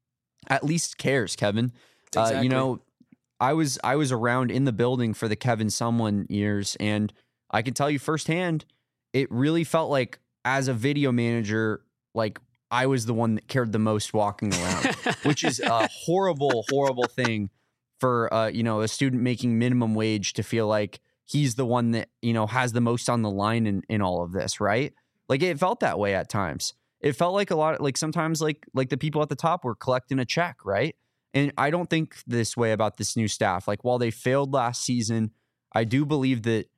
at least cares, Kevin. Exactly. Uh, you know, I was I was around in the building for the Kevin Sumlin years, and I can tell you firsthand, it really felt like as a video manager, like I was the one that cared the most walking around, which is a horrible, horrible thing for uh, you know a student making minimum wage to feel like he's the one that, you know, has the most on the line in, in all of this, right? Like it felt that way at times. It felt like a lot, like sometimes like like the people at the top were collecting a check, right? And I don't think this way about this new staff. Like while they failed last season, I do believe that,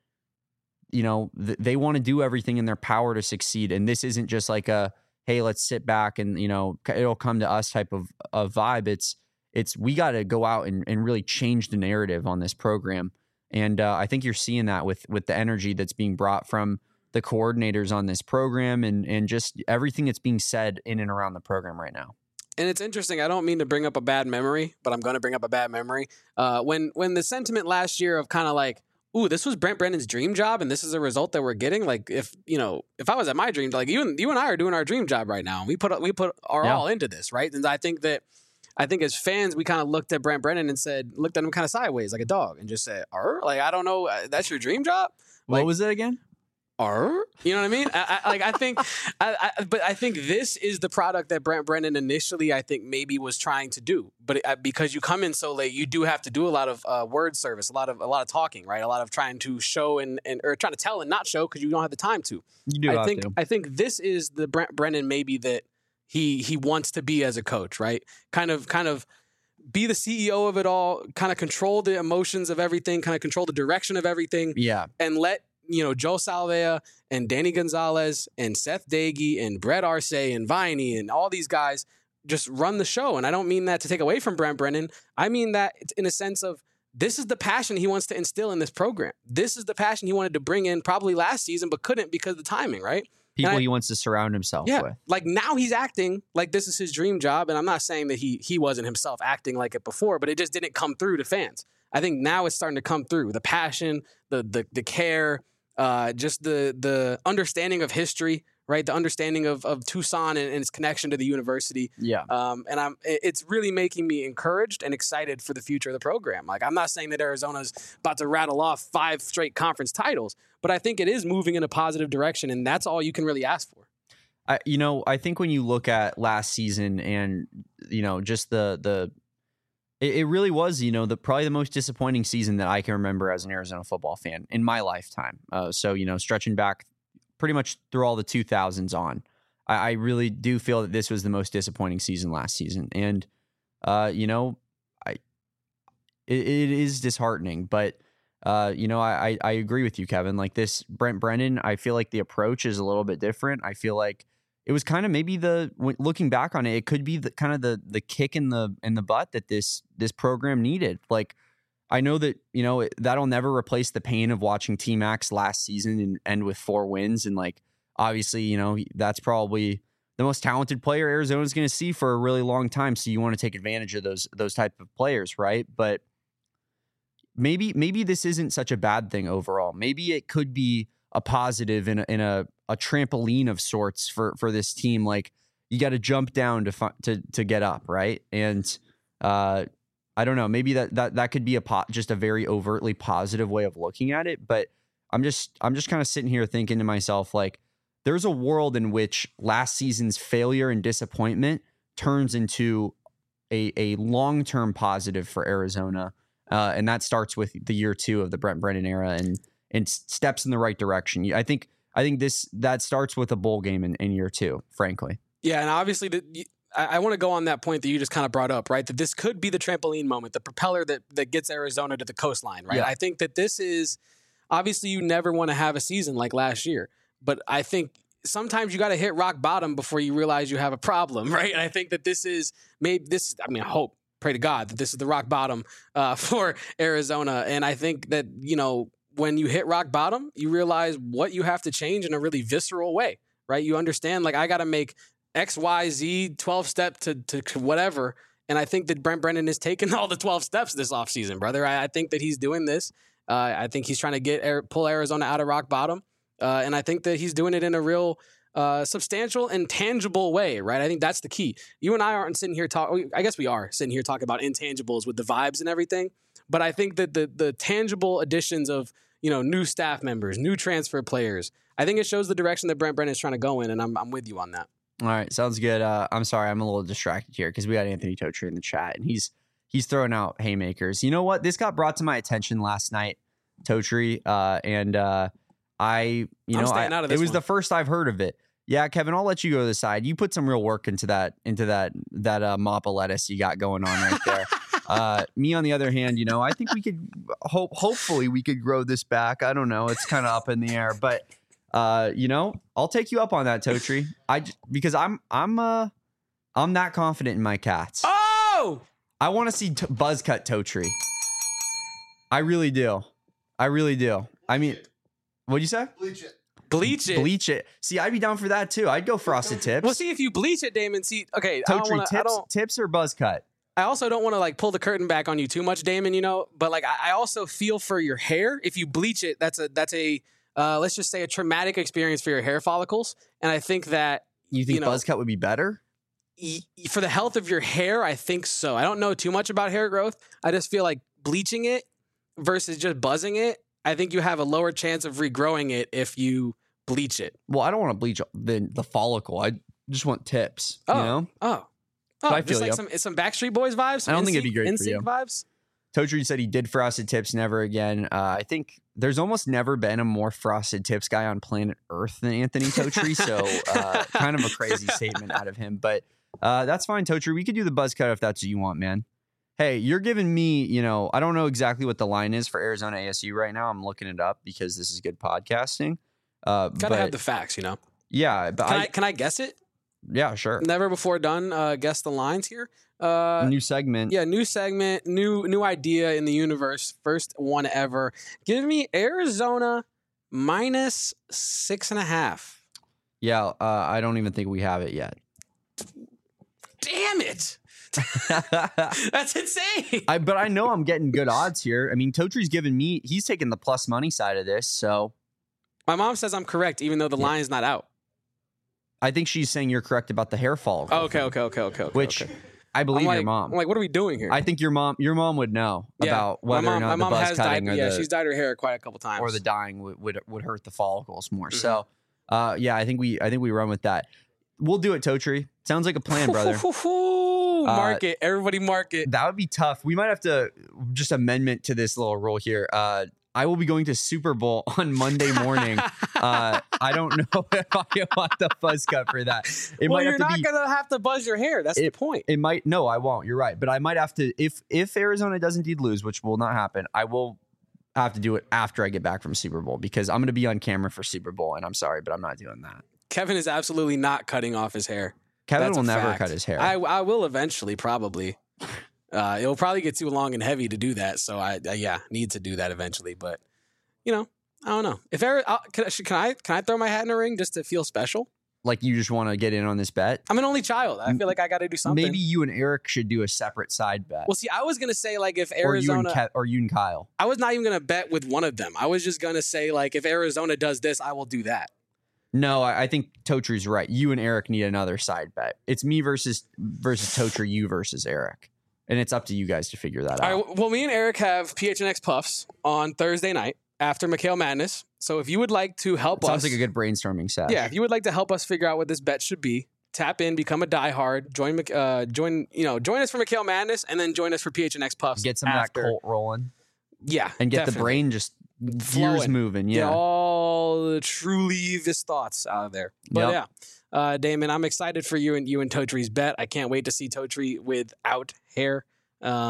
you know, th- they want to do everything in their power to succeed. And this isn't just like a, hey, let's sit back and, you know, it'll come to us type of, of vibe. It's, it's, we got to go out and, and really change the narrative on this program. And uh, I think you're seeing that with with the energy that's being brought from the coordinators on this program and and just everything that's being said in and around the program right now. And it's interesting. I don't mean to bring up a bad memory, but I'm going to bring up a bad memory. Uh, when when the sentiment last year of kind of like, ooh, this was Brent Brennan's dream job, and this is a result that we're getting. Like if you know, if I was at my dream, like you and you and I are doing our dream job right now, and we put we put our Yeah. all into this, right? And I think that. I think as fans, we kind of looked at Brent Brennan and said, looked at him kind of sideways like a dog and just said, "Arr?" Like, I don't know. uh, That's your dream job? Like, What was it again? Arr? You know what I mean? I, I, like, I think, I, I, but I think this is the product that Brent Brennan initially, I think maybe was trying to do. But it, uh, because you come in so late, you do have to do a lot of uh, word service, a lot of, a lot of talking, right? A lot of trying to show and, and or trying to tell and not show because you don't have the time to. You do I have think, to. I think this is the Brent Brennan maybe that he, he wants to be as a coach, right? Kind of, kind of, be the C E O of it all, kind of control the emotions of everything, kind of control the direction of everything, Yeah. and let, you know, Joe Salvea and Danny Gonzalez and Seth Dagey and Brett Arce and Viney and all these guys just run the show. And I don't mean that to take away from Brent Brennan. I mean that in a sense of this is the passion he wants to instill in this program. This is the passion he wanted to bring in probably last season, but couldn't because of the timing, right? People I, he wants to surround himself yeah, with. like now he's acting like this is his dream job. And I'm not saying that he he wasn't himself acting like it before, but it just didn't come through to fans. I think now it's starting to come through. The passion, the the the care, uh, just the the understanding of history, right? The understanding of of Tucson and, and its connection to the university. Yeah. Um, and I'm it- it's really making me encouraged and excited for the future of the program. Like I'm not saying that Arizona's about to rattle off five straight conference titles, but I think it is moving in a positive direction, and that's all you can really ask for. I, you know, I think when you look at last season and, you know, just the, the, it, it really was, you know, the probably the most disappointing season that I can remember as an Arizona football fan in my lifetime. Uh, so, you know, stretching back pretty much through all the two thousands on, I, I really do feel that this was the most disappointing season last season. And, uh, you know, I, it, it is disheartening, but, Uh, you know, I, I agree with you, Kevin. Like this Brent Brennan, I feel like the approach is a little bit different. I feel like it was kind of maybe the looking back on it, it could be the kind of the the kick in the in the butt that this this program needed. Like I know that you know that'll never replace the pain of watching T-Max last season and end with four wins. And like obviously, you know, that's probably the most talented player Arizona's going to see for a really long time. So you want to take advantage of those those type of players, right? But Maybe maybe this isn't such a bad thing overall. Maybe it could be a positive in a, in a, a trampoline of sorts for, for this team. Like you got to jump down to fi- to to get up, right? And uh, I don't know. Maybe that that that could be a po- just a very overtly positive way of looking at it. But I'm just I'm just kind of sitting here thinking to myself, like, there's a world in which last season's failure and disappointment turns into a a long term positive for Arizona. Uh, and that starts with the year two of the Brent Brennan era and and steps in the right direction. I think I think this that starts with a bowl game in, in year two, frankly. Yeah, and obviously, the, I, I want to go on that point that you just kind of brought up, right? That this could be the trampoline moment, the propeller that that gets Arizona to the coastline, right? Yeah. I think that this is, obviously you never want to have a season like last year, but I think sometimes you got to hit rock bottom before you realize you have a problem, right? And I think that this is maybe this, I mean, I hope, pray to God that this is the rock bottom uh, for Arizona. And I think that, you know, when you hit rock bottom, you realize what you have to change in a really visceral way, right? You understand, like, I got to make X, Y, Z, twelve step to, to whatever. And I think that Brent Brennan is taking all the twelve steps this offseason, brother. I, I think that he's doing this. Uh, I think he's trying to get pull Arizona out of rock bottom. Uh, and I think that he's doing it in a real uh, substantial and tangible way, right? I think that's the key. You and I aren't sitting here talking. I guess we are sitting here talking about intangibles with the vibes and everything. But I think that the the tangible additions of, you know, new staff members, new transfer players, I think it shows the direction that Brent Brennan is trying to go in. And I'm I'm with you on that. All right, sounds good. Uh, I'm sorry, I'm a little distracted here because we got Anthony Totri in the chat, and he's he's throwing out haymakers. You know what? This got brought to my attention last night, Totri, uh, and uh, I, you I'm know, I, staying out of this it was one. the first I've heard of it. Yeah, Kevin, I'll let you go to the side. You put some real work into that into that that uh, mop of lettuce you got going on right there. uh, me, on the other hand, you know, I think we could hope. Hopefully, we could grow this back. I don't know. It's kind of up in the air, but. Uh, you know, I'll take you up on that, Totri. I because I'm I'm uh I'm that confident in my cats. Oh, I want to see t- buzz cut Totri. I really do. I really do. I mean, what'd you say? Bleach it. bleach it. Bleach it. See, I'd be down for that too. I'd go frosted tips. Well, see if you bleach it, Damon. See, okay, I don't Totri, wanna, I tips, don't. tips or buzz cut? I also don't want to like pull the curtain back on you too much, Damon. You know, but like I, I also feel for your hair. If you bleach it, that's a that's a Uh, let's just say a traumatic experience for your hair follicles. And I think that You think you know, buzz cut would be better? y- for the health of your hair, I think so. I don't know too much about hair growth. I just feel like bleaching it versus just buzzing it, I think you have a lower chance of regrowing it if you bleach it. Well, I don't want to bleach the the follicle. I just want tips. Oh, You know, oh, But oh, I just feel like you. some some Backstreet Boys vibes. Some I don't think it'd N Sync be great for N Sync you. vibes. Totri said he did frosted tips, never again. Uh, I think there's almost never been a more frosted tips guy on planet Earth than Anthony Totri. So uh, kind of a crazy statement out of him. But uh, that's fine, Totri. We could do the buzz cut if that's what you want, man. Hey, you're giving me, you know, I don't know exactly what the line is for Arizona A S U right now. I'm looking it up because this is good podcasting. Uh, Gotta but have the facts, you know. yeah, but Can I, I, can I guess it? yeah, sure. Never before done. Uh, guess the lines here. Uh, New segment. Yeah, new segment, new new idea in the universe. First one ever. Give me Arizona minus six and a half. Yeah, uh, I don't even think we have it yet. Damn it! That's insane. I, but I know I'm getting good odds here. I mean, Totri's giving me, he's taking the plus money side of this. So My mom says I'm correct, even though the Yeah. line's not out. I think she's saying you're correct about the hair follicle. Oh, okay, thing, okay, okay, okay, okay. Which okay. I believe I'm like, your mom. I'm like, what are we doing here? I think your mom, your mom would know Yeah, about my whether mom, or my not the mom buzz has dyed. cutting or, Yeah, the, she's dyed her hair quite a couple times. or the dyeing would, would would hurt the follicles more. Mhm. So, uh, yeah, I think we I think we run with that. We'll do it, Totri. Sounds like a plan, brother. Mark it, everybody, mark it. That would be tough. We might have to just amendment to this little rule here. Uh, I will be going to Super Bowl on Monday morning. uh, I don't know if I want the buzz cut for that. It well, might you're have to not be. gonna have to buzz your hair. That's the It- point. It might. No, I won't. You're right. But I might have to. If if Arizona does indeed lose, which will not happen, I will have to do it after I get back from Super Bowl because I'm going to be on camera for Super Bowl, and I'm sorry, but I'm not doing that. Kevin is absolutely not cutting off his hair. Kevin That's will a never fact. cut his hair. I, I will eventually, probably. Uh, it'll probably get too long and heavy to do that. So I, I yeah, need to do that eventually. But you know, I don't know if Ari- uh, can, I- can I can I throw my hat in the ring just to feel special? like you just want to get in on this bet. I'm an only child. I feel like I got to do something. Maybe you and Eric should do a separate side bet. Well, see, I was gonna say like if or you and Arizona, Ke- or you and Kyle. I was not even gonna bet with one of them. I was just gonna say like if Arizona does this, I will do that. No, I, I think Totri's right. You and Eric need another side bet. It's me versus versus Totri, you versus Eric. And it's up to you guys to figure that out. All right. Well, me and Eric have P H N X Puffs on Thursday night after Mikhail Madness. So if you would like to help Sounds us, like a good brainstorming set. yeah, if you would like to help us figure out what this bet should be, tap in, become a diehard, join, Mik- uh, join, you know, join us for Mikhail Madness, and then join us for P H N X Puffs. Get some after. of that Colt rolling. Yeah, And get the definitely. brain just gears Flowing. moving. Get Yeah. all the truly this thoughts out of there. But Yep. yeah, uh, Damon, I'm excited for you and you and Totri's bet. I can't wait to see Totri without hair. Um,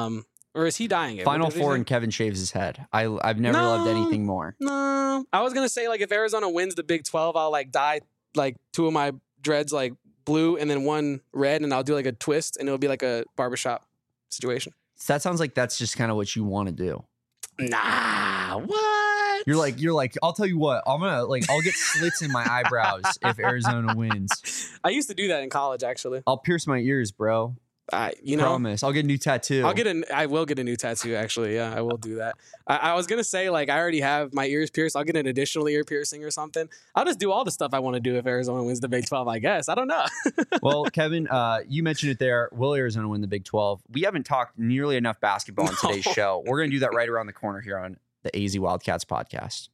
Or is he dying it? Final Four and Kevin shaves his head. I, I've never no, loved anything more. No. I was going to say, like, if Arizona wins the Big twelve, I'll, like, dye, like, two of my dreads, like, blue and then one red, and I'll do, like, a twist, and it'll be, like, a barbershop situation. So that sounds like that's just kind of what you want to do. Nah, what? You're like, you're like, I'll tell you what, I'm going to, like, I'll get slits in my eyebrows if Arizona wins. I used to do that in college, actually. I'll pierce my ears, bro. I, you know, promise. I'll get a new tattoo. I'll get an. I will get a new tattoo. Actually, yeah, I will do that. I, I was gonna say, like, I already have my ears pierced. I'll get an additional ear piercing or something. I'll just do all the stuff I want to do if Arizona wins the Big twelve. I guess I don't know. Well, Kevin, uh, you mentioned it there. Will Arizona win the Big twelve? We haven't talked nearly enough basketball on today's no. show. We're gonna do that right around the corner here on the A Z Wildcats podcast.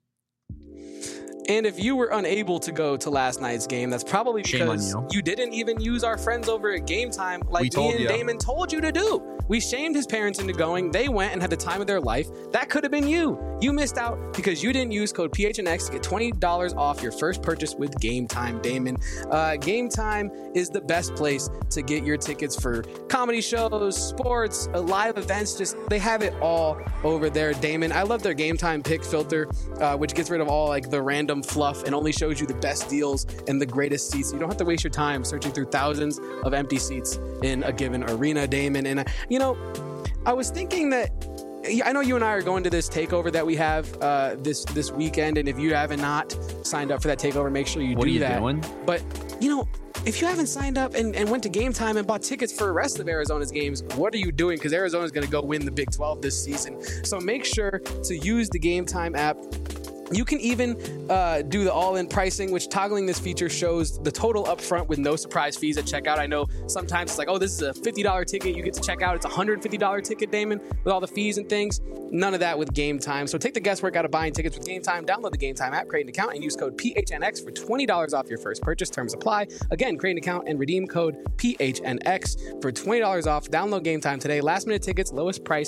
And if you were unable to go to last night's game, that's probably because you. you didn't even use our friends over at Game Time like me and you. Damon told you to do. We shamed his parents into going. They went and had the time of their life. That could have been you. You missed out because you didn't use code P H N X to get twenty dollars off your first purchase with Game Time, Damon. Uh, Game Time is the best place to get your tickets for comedy shows, sports, uh, live events. Just they have it all over there, Damon. I love their Game Time pick filter, uh, which gets rid of all like the random fluff and only shows you the best deals and the greatest seats. You don't have to waste your time searching through thousands of empty seats in a given arena, Damon. And, uh, you know, I was thinking that I know you and I are going to this takeover that we have uh, this this weekend. And if you haven't not signed up for that takeover, make sure you what do are you that. Doing? But, you know, if you haven't signed up and, and went to Game Time and bought tickets for the rest of Arizona's games, what are you doing? Because Arizona's going to go win the Big twelve this season. So make sure to use the Game Time app. You can even uh, do the all-in pricing, which toggling this feature shows the total up front with no surprise fees at checkout. I know sometimes it's like, oh, this is a fifty dollars ticket. You get to check out. It's a one hundred fifty dollars ticket, Damon, with all the fees and things. None of that with Game Time. So take the guesswork out of buying tickets with Game Time. Download the Game Time app, create an account, and use code P H N X for twenty dollars off your first purchase. Terms apply. Again, create an account and redeem code P H N X for twenty dollars off. Download Game Time today. Last minute tickets, lowest price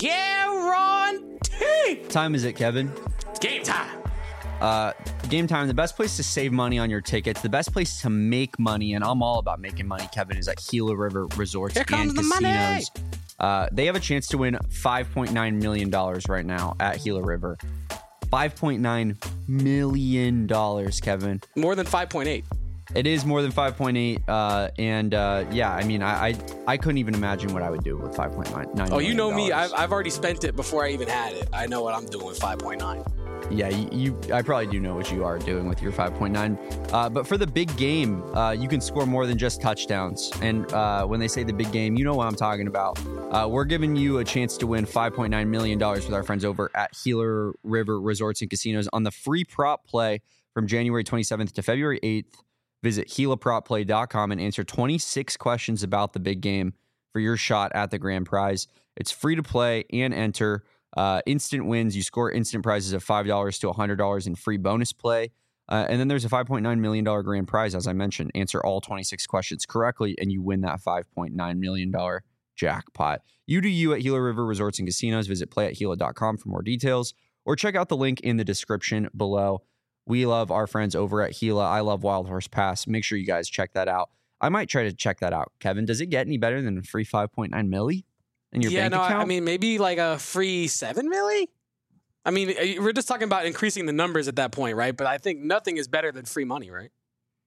guaranteed. Time is it, Kevin? It's game time. Uh, Game Time, the best place to save money on your tickets, the best place to make money, and I'm all about making money, Kevin, is at Gila River Resorts Here and comes the Casinos. Money. Uh, they have a chance to win five point nine million dollars right now at Gila River. five point nine million dollars, Kevin. More than five point eight. It is more than five point eight, uh, and uh, yeah, I mean, I, I I couldn't even imagine what I would do with five point nine. Oh, you know me. I've, I've already spent it before I even had it. I know what I'm doing with five point nine. Yeah, you, you. I probably do know what you are doing with your five point nine. Uh, but for the big game, uh, you can score more than just touchdowns. And uh, when they say the big game, you know what I'm talking about. Uh, we're giving you a chance to win five point nine million dollars with our friends over at Gila River Resorts and Casinos on the free prop play from January twenty-seventh to February eighth. Visit Gila Prop Play dot com and answer twenty-six questions about the big game for your shot at the grand prize. It's free to play and enter. Uh, instant wins. You score instant prizes of five dollars to one hundred dollars in free bonus play. Uh, and then there's a five point nine million dollars grand prize, as I mentioned. Answer all twenty-six questions correctly, and you win that five point nine million dollars jackpot. You do you at Gila River Resorts and Casinos. Visit play at gila dot com for more details, or check out the link in the description below. We love our friends over at Gila. I love Wild Horse Pass. Make sure you guys check that out. I might try to check that out. Kevin, does it get any better than a free five point nine milli? In your yeah, bank no, account? I mean, maybe like a free seven milli? I mean, we're just talking about increasing the numbers at that point, right? But I think nothing is better than free money, right?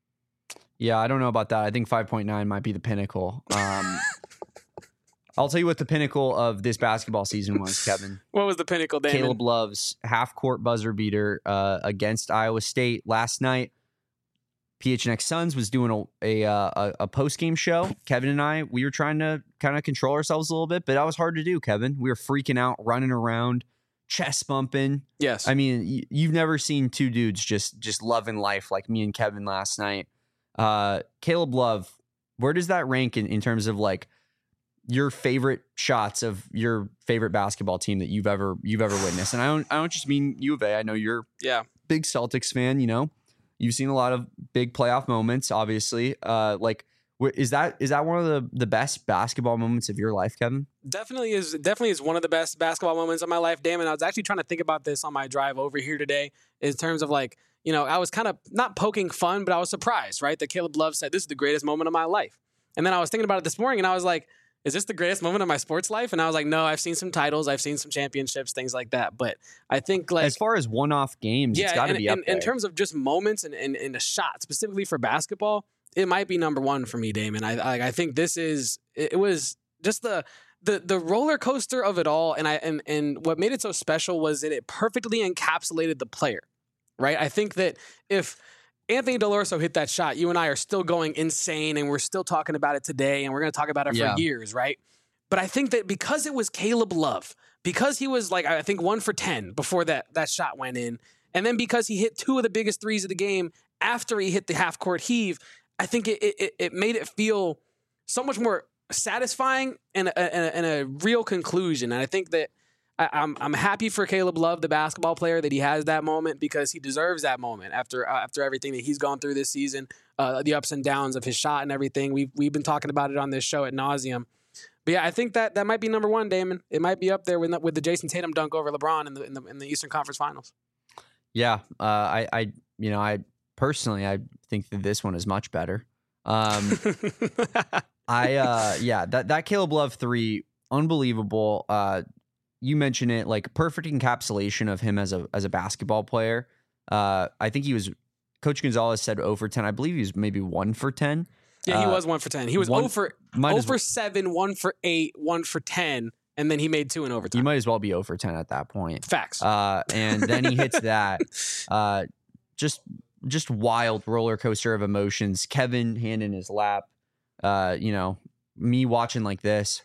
Yeah, I don't know about that. I think five point nine might be the pinnacle. Um, I'll tell you what the pinnacle of this basketball season was, Kevin. What was the pinnacle, Damon? Caleb Love's half-court buzzer beater uh, against Iowa State last night. P H N X Suns was doing a a, a, a post-game show. Kevin and I, we were trying to kind of control ourselves a little bit, but that was hard to do, Kevin. We were freaking out, running around, chest bumping. Yes. I mean, y- you've never seen two dudes just just loving life like me and Kevin last night. Uh, Caleb Love, where does that rank in, in terms of like your favorite shots of your favorite basketball team that you've ever you've ever witnessed? And I don't I don't just mean U of A. I know you're yeah big Celtics fan, you know. You've seen a lot of big playoff moments, obviously. Uh, like, is that is that one of the, the best basketball moments of your life, Kevin? Definitely is. Definitely is one of the best basketball moments of my life, Damon. I was actually trying to think about this on my drive over here today, in terms of like, you know, I was kind of not poking fun, but I was surprised, right, that Caleb Love said this is the greatest moment of my life. And then I was thinking about it this morning, and I was like, is this the greatest moment of my sports life? And I was like, no, I've seen some titles, I've seen some championships, things like that. But I think like as far as one-off games, yeah, it's got to and, be up and, there. in terms of just moments and, and, and a shot specifically for basketball, it might be number one for me, Damon. I I, I think this is it, it was just the the the roller coaster of it all, and I and and what made it so special was that it perfectly encapsulated the player, right? I think that if Anthony Delorso hit that shot, you and I are still going insane, and we're still talking about it today, and we're going to talk about it for Yeah. years, right? But I think that because it was Caleb Love, because he was like, I think one for ten before that that shot went in, and then because he hit two of the biggest threes of the game after he hit the half court heave, I think it it, it made it feel so much more satisfying and a, and, a, and a real conclusion. And I think that I, I'm I'm happy for Caleb Love, the basketball player, that he has that moment because he deserves that moment after uh, after everything that he's gone through this season, uh, the ups and downs of his shot and everything. We've we've been talking about it on this show at nauseum. But yeah, I think that that might be number one, Damon. It might be up there with with the Jason Tatum dunk over LeBron in the in the, in the Eastern Conference Finals. Yeah, uh, I, I, you know, I personally, I think that this one is much better. Um, I, uh, yeah, that that Caleb Love three, unbelievable. Uh, you mentioned it, like perfect encapsulation of him as a as a basketball player. Uh, I think he was. Coach Gonzalez said zero for ten. I believe he was maybe one for ten. Yeah, he Uh, was one for ten. He was one- zero for might zero as for well- seven, one for eight, one for ten, and then he made two in overtime. You might as well be zero for ten at that point. Facts. Uh, and then he hits that. Uh, just just wild roller coaster of emotions. Kevin hand in his lap. Uh, you know, me watching like this,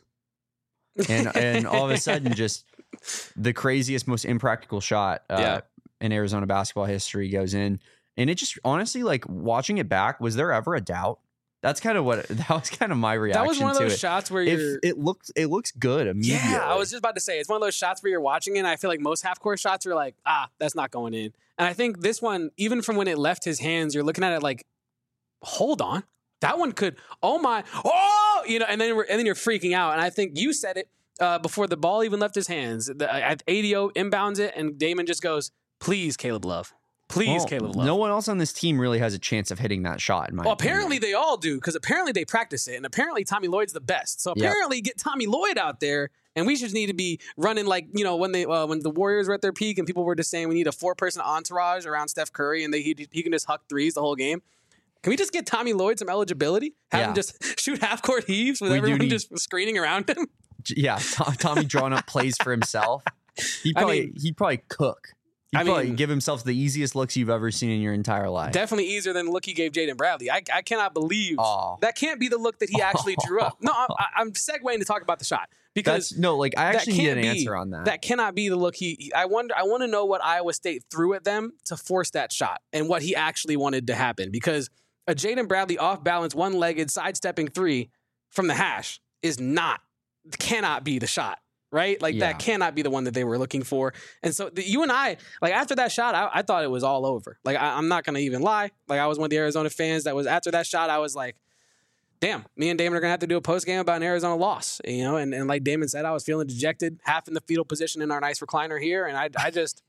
and and all of a sudden, just the craziest, most impractical shot uh, Yeah. in Arizona basketball history goes in, and it just honestly, like watching it back, was there ever a doubt? That's kind of what that was kind of my reaction that was one of to those it. shots where If you're. it looks it looks good immediately. Yeah, I was just about to say it's one of those shots where you're watching it. And I feel like most half court shots are like, ah, that's not going in. And I think this one, even from when it left his hands, you're looking at it like, hold on, that one could. Oh my, oh, you know, and then we're, and then you're freaking out. And I think you said it uh, before the ball even left his hands. The, uh, A D O inbounds it, and Damon just goes, "Please, Caleb Love, please, Well, Caleb Love." No one else on this team really has a chance of hitting that shot. In my Well, opinion. apparently they all do because apparently they practice it, and apparently Tommy Lloyd's the best. So Yep. apparently get Tommy Lloyd out there, and we just need to be running like you know when they uh, when the Warriors were at their peak, and people were just saying we need a four person entourage around Steph Curry, and they he, he can just huck threes the whole game. Can we just get Tommy Lloyd some eligibility? Have Yeah. him just shoot half court heaves with We do everyone need- just screening around him? Yeah, Tom, Tommy drawing up plays for himself. He I probably mean- he'd probably cook. He'd I probably mean- give himself the easiest looks you've ever seen in your entire life. Definitely easier than the look he gave Jaden Bradley. I, I cannot believe Aw. that can't be the look that he actually drew up. No, I'm, I'm segueing to talk about the shot because That's no, like I that actually need can't an be- answer on that. That cannot be the look he, he- I wonder. I want to know what Iowa State threw at them to force that shot and what he actually wanted to happen. Because a Jaden Bradley off balance, one legged sidestepping three from the hash is not, cannot be the shot. Right? Like Yeah. that cannot be the one that they were looking for. And so the, you and I, like after that shot, I, I thought it was all over. Like I, I'm not going to even lie. Like I was one of the Arizona fans that was after that shot, I was like, damn, me and Damon are going to have to do a post game about an Arizona loss, you know? And, and like Damon said, I was feeling dejected, half in the fetal position in our nice recliner here. And I, I just,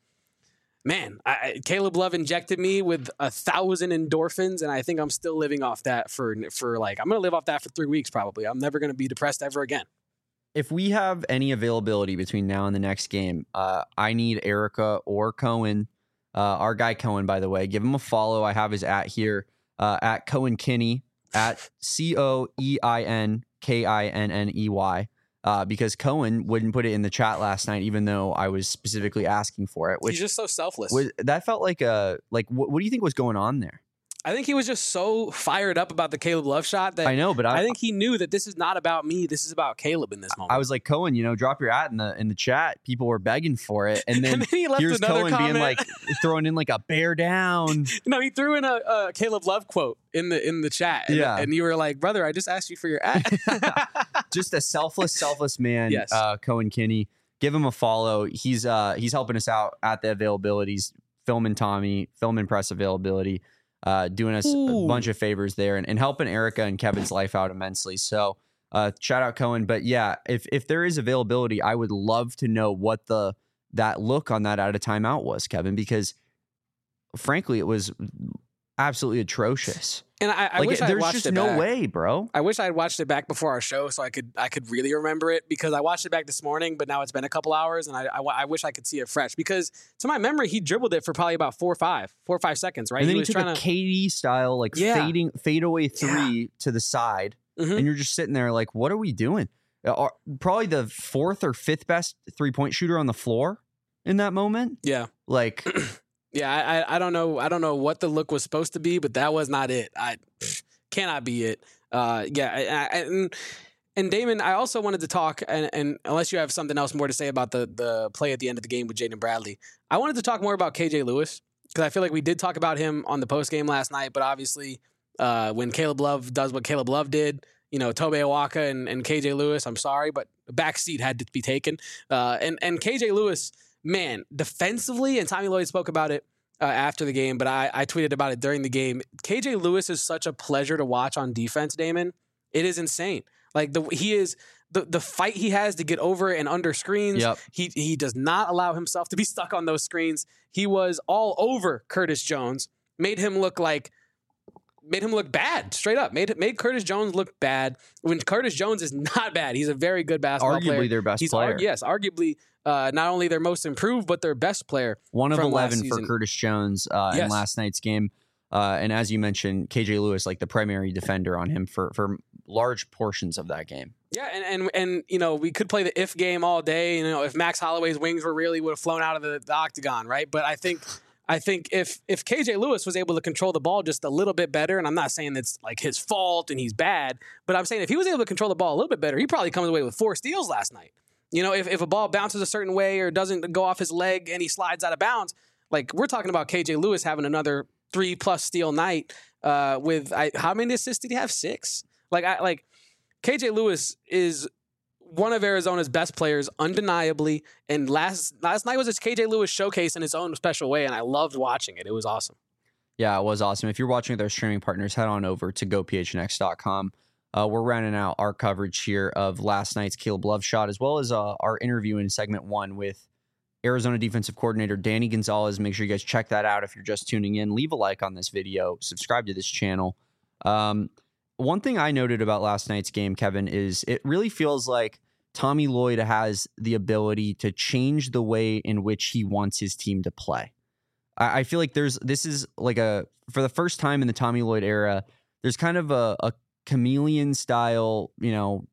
man, I, I- Caleb Love injected me with a thousand endorphins. And I think I'm still living off that for, for like, I'm going to live off that for three weeks probably. I'm never going to be depressed ever again. If we have any availability between now and the next game, uh, I need Erica or Cohen. Uh, our guy Cohen, by the way, give him a follow. I have his at here uh, at Cohen Kinney at C O E I N K I N N E Y. Uh, because Cohen wouldn't put it in the chat last night, even though I was specifically asking for it. Which He's just so selfless. was that felt like a like what, what do you think was going on there? I think he was just so fired up about the Caleb Love shot that I know, but I, I think he knew that this is not about me. This is about Caleb in this moment. I was like, Cohen, you know, drop your at in the in the chat. People were begging for it, and then, and then he left here's another Cohen comment. being like throwing in like a bear down. no, he threw in a, a Caleb Love quote in the in the chat. And, Yeah. and you were like, brother, I just asked you for your ad. Just a selfless, selfless man. Yes. uh, Cohen Kinney. Give him a follow. He's uh he's helping us out at the availabilities, filming Tommy, filming press availability. Uh, doing us Ooh. a bunch of favors there and, and helping Erica and Kevin's life out immensely. So uh, shout out Cohen. But yeah, if if there is availability, I would love to know what the that look on that out of timeout was, Kevin, because frankly, it was absolutely atrocious. And I, I like, wish I there's watched just it no back. way, bro. I wish I had watched it back before our show so I could I could really remember it, because I watched it back this morning, but now it's been a couple hours, and I I, I wish I could see it fresh, because to my memory he dribbled it for probably about four or five, four or five seconds, right? And then he, was took trying a to, K D style, like Yeah. fading fadeaway three to the side, Mhm. and you're just sitting there like, what are we doing? Uh, are- Probably the fourth or fifth best three point shooter on the floor in that moment. yeah. Like, Yeah, I, I I don't know I don't know what the look was supposed to be, but that was not it. I cannot be it. Uh, yeah, I, I, and and Damon, I also wanted to talk, and, and unless you have something else more to say about the the play at the end of the game with Jaden Bradley, I wanted to talk more about K J Lewis, because I feel like we did talk about him on the post game last night, but obviously uh, when Caleb Love does what Caleb Love did, you know, Tobe Awaka and, and K J Lewis, I'm sorry, but the back seat had to be taken. Uh, and and K J Lewis, man, defensively, and Tommy Lloyd spoke about it Uh, after the game, but I, I tweeted about it during the game. K J Lewis is such a pleasure to watch on defense, Damon. It is insane. Like the he is the the fight he has to get over and under screens. Yep. He he does not allow himself to be stuck on those screens. He was all over Curtis Jones, made him look like made him look bad, straight up. Made made Curtis Jones look bad when Curtis Jones is not bad. He's a very good basketball arguably player. their best He's player. Arg- yes, arguably uh, not only their most improved, but their best player. One of from last eleven for season. Curtis Jones uh, in Yes. last night's game. Uh, and as you mentioned, K J Lewis, like the primary defender on him for, for large portions of that game. Yeah, and, and and you know, we could play the if game all day. You know, if Max Holloway's wings were real, he would have flown out of the, the octagon, right? But I think I think if if K J Lewis was able to control the ball just a little bit better, and I'm not saying that's like his fault and he's bad, but I'm saying if he was able to control the ball a little bit better, he probably comes away with four steals last night. You know, if, if a ball bounces a certain way or doesn't go off his leg and he slides out of bounds, like we're talking about K J Lewis having another three plus steal night uh, with I, how many assists did he have? Six. Like I like K J Lewis is one of Arizona's best players, undeniably. And last last night was a K J Lewis showcase in its own special way, and I loved watching it. It was awesome. Yeah, it was awesome. If you're watching with our streaming partners, head on over to go p h n x dot com. Uh, we're rounding out our coverage here of last night's Caleb Love shot, as well as uh, our interview in segment one with Arizona defensive coordinator Danny Gonzalez. Make sure you guys check that out if you're just tuning in. Leave a like on this video. Subscribe to this channel. Um, one thing I noted about last night's game, Kevin, is it really feels like Tommy Lloyd has the ability to change the way in which he wants his team to play. I, I feel like there's this is like a for the first time in the Tommy Lloyd era, there's kind of a, a chameleon style, you know,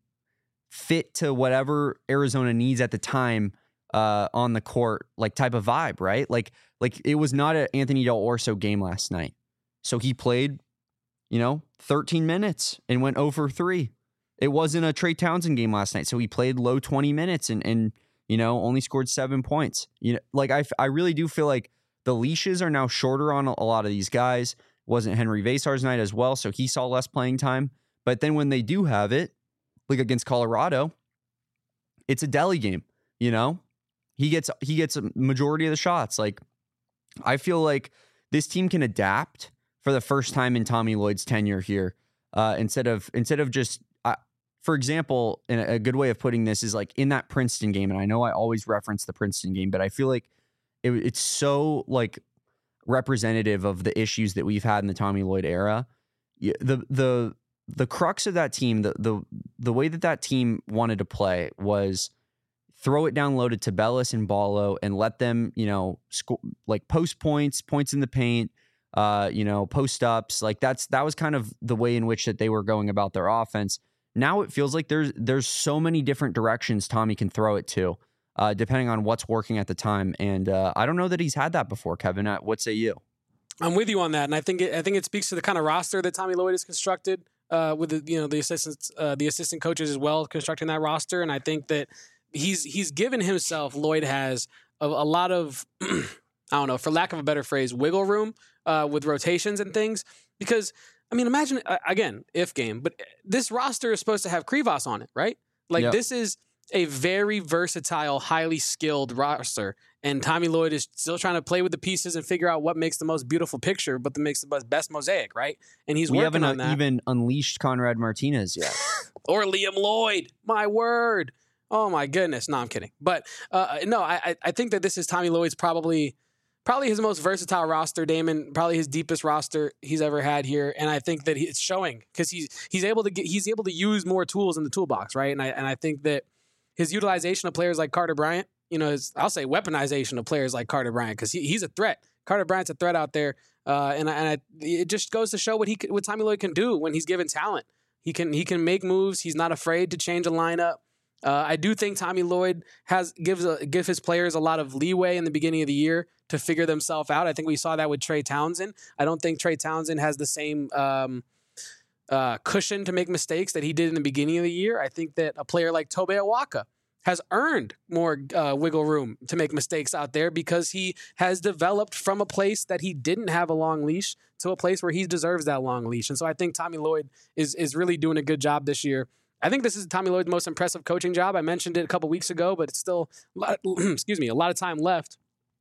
fit to whatever Arizona needs at the time uh, on the court, like type of vibe, right? Like, like it was not an Anthony Del Orso game last night. So he played, you know, thirteen minutes and went zero for three. It wasn't a Trey Townsend game last night. So he played low twenty minutes and, and, you know, only scored seven points. You know, like I, I really do feel like the leashes are now shorter on a, a lot of these guys. Wasn't Henry Vasar's night as well. So he saw less playing time. But then when they do have it, like against Colorado, it's a deli game, you know? He gets he gets a majority of the shots. Like, I feel like this team can adapt for the first time in Tommy Lloyd's tenure here. Uh, instead of instead of just, uh, for example, and a good way of putting this is like in that Princeton game, and I know I always reference the Princeton game, but I feel like it, it's so like representative of the issues that we've had in the Tommy Lloyd era. The the The crux of that team, the the the way that that team wanted to play was throw it down low to Tabellis and Ballo and let them, you know, score, like post points, points in the paint, uh, you know, post ups. Like that's that was kind of the way in which that they were going about their offense. Now it feels like there's there's so many different directions Tommy can throw it to, uh, depending on what's working at the time. And uh, I don't know that he's had that before, Kevin. Uh, what say you? I'm with you on that, and I think it, I think it speaks to the kind of roster that Tommy Lloyd has constructed. Uh, with the you know the assistants, uh, the assistant coaches as well constructing that roster, and I think that he's he's given himself Lloyd has a, a lot of I don't know, for lack of a better phrase, wiggle room uh, with rotations and things. Because I mean, imagine uh, again if game, but this roster is supposed to have Krivas on it, right? Like Yep. This is a very versatile, highly skilled roster. And Tommy Lloyd is still trying to play with the pieces and figure out what makes the most beautiful picture, but that makes the best mosaic, right? And he's we working haven't on that. even unleashed Conrad Martinez yet. Or Liam Lloyd. My word. Oh my goodness. No, I'm kidding. But uh, no, I I think that this is Tommy Lloyd's probably probably his most versatile roster, Damon. Probably his deepest roster he's ever had here, and I think that he, it's showing because he's he's able to get he's able to use more tools in the toolbox, right? And I and I think that his utilization of players like Carter Bryant, you know, his, I'll say weaponization of players like Carter Bryant because he, he's a threat. Carter Bryant's a threat out there, uh, and I, and I, it just goes to show what he what Tommy Lloyd can do when he's given talent. He can he can make moves. He's not afraid to change a lineup. Uh, I do think Tommy Lloyd has gives a, gives his players a lot of leeway in the beginning of the year to figure themselves out. I think we saw that with Trey Townsend. I don't think Trey Townsend has the same um, uh, cushion to make mistakes that he did in the beginning of the year. I think that a player like Tobe Awaka has earned more uh, wiggle room to make mistakes out there because he has developed from a place that he didn't have a long leash to a place where he deserves that long leash. And so I think Tommy Lloyd is is really doing a good job this year. I think this is Tommy Lloyd's most impressive coaching job. I mentioned it a couple weeks ago, but it's still, a lot, excuse me, a lot of time left.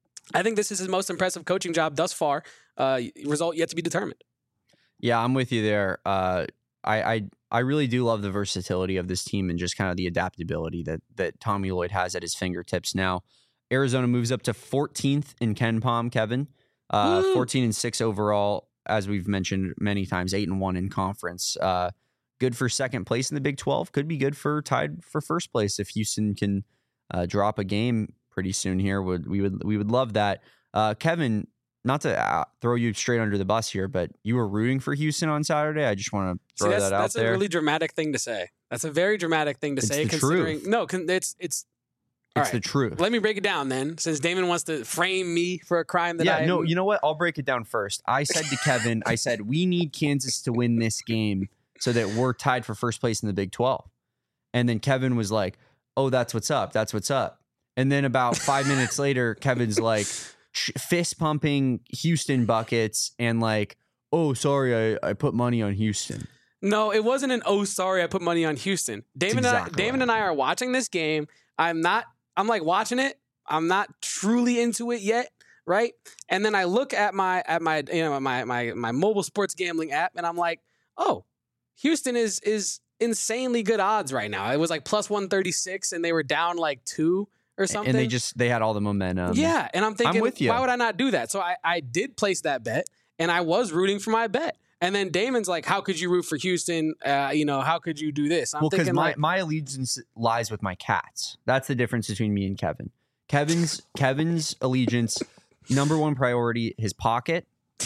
I think this is his most impressive coaching job thus far. Uh, result yet to be determined. Yeah, I'm with you there. Uh, I, I I really do love the versatility of this team and just kind of the adaptability that that Tommy Lloyd has at his fingertips now. Arizona moves up to fourteenth in KenPom, Kevin. Uh, fourteen and six overall, as we've mentioned many times, eight and one in conference. Uh, good for second place in the Big twelve. Could be good for tied for first place if Houston can uh, drop a game pretty soon here. Would we would we would love that. Uh, Kevin, not to uh, throw you straight under the bus here, but you were rooting for Houston on Saturday. I just want to throw See, that's, that out that's there. That's a really dramatic thing to say. That's a very dramatic thing to it's say. The considering truth. no, it's it's. It's right. the truth. Let me break it down then, since Damon wants to frame me for a crime that yeah, I... no, you know what? I'll break it down first. I said to Kevin, I said, we need Kansas to win this game so that we're tied for first place in the Big twelve. And then Kevin was like, oh, that's what's up. That's what's up. And then about five minutes later, Kevin's like fist pumping Houston buckets and like, oh, sorry, I, I put money on Houston. No, it wasn't an, oh, sorry, I put money on Houston. Damon, exactly and, I, Damon and I are watching this game. I'm not... I'm like watching it. I'm not truly into it yet, right? And then I look at my at my you know my my my mobile sports gambling app, and I'm like, oh, Houston is is insanely good odds right now. It was like plus one thirty-six, and they were down like two or something. And they just they had all the momentum. Yeah, and I'm thinking, I'm with you. Why would I not do that? So I I did place that bet, and I was rooting for my bet. And then Damon's like, how could you root for Houston? Uh, you know, how could you do this? I'm well, because my, like, my allegiance lies with my cats. That's the difference between me and Kevin. Kevin's Kevin's allegiance, number one priority, his pocket.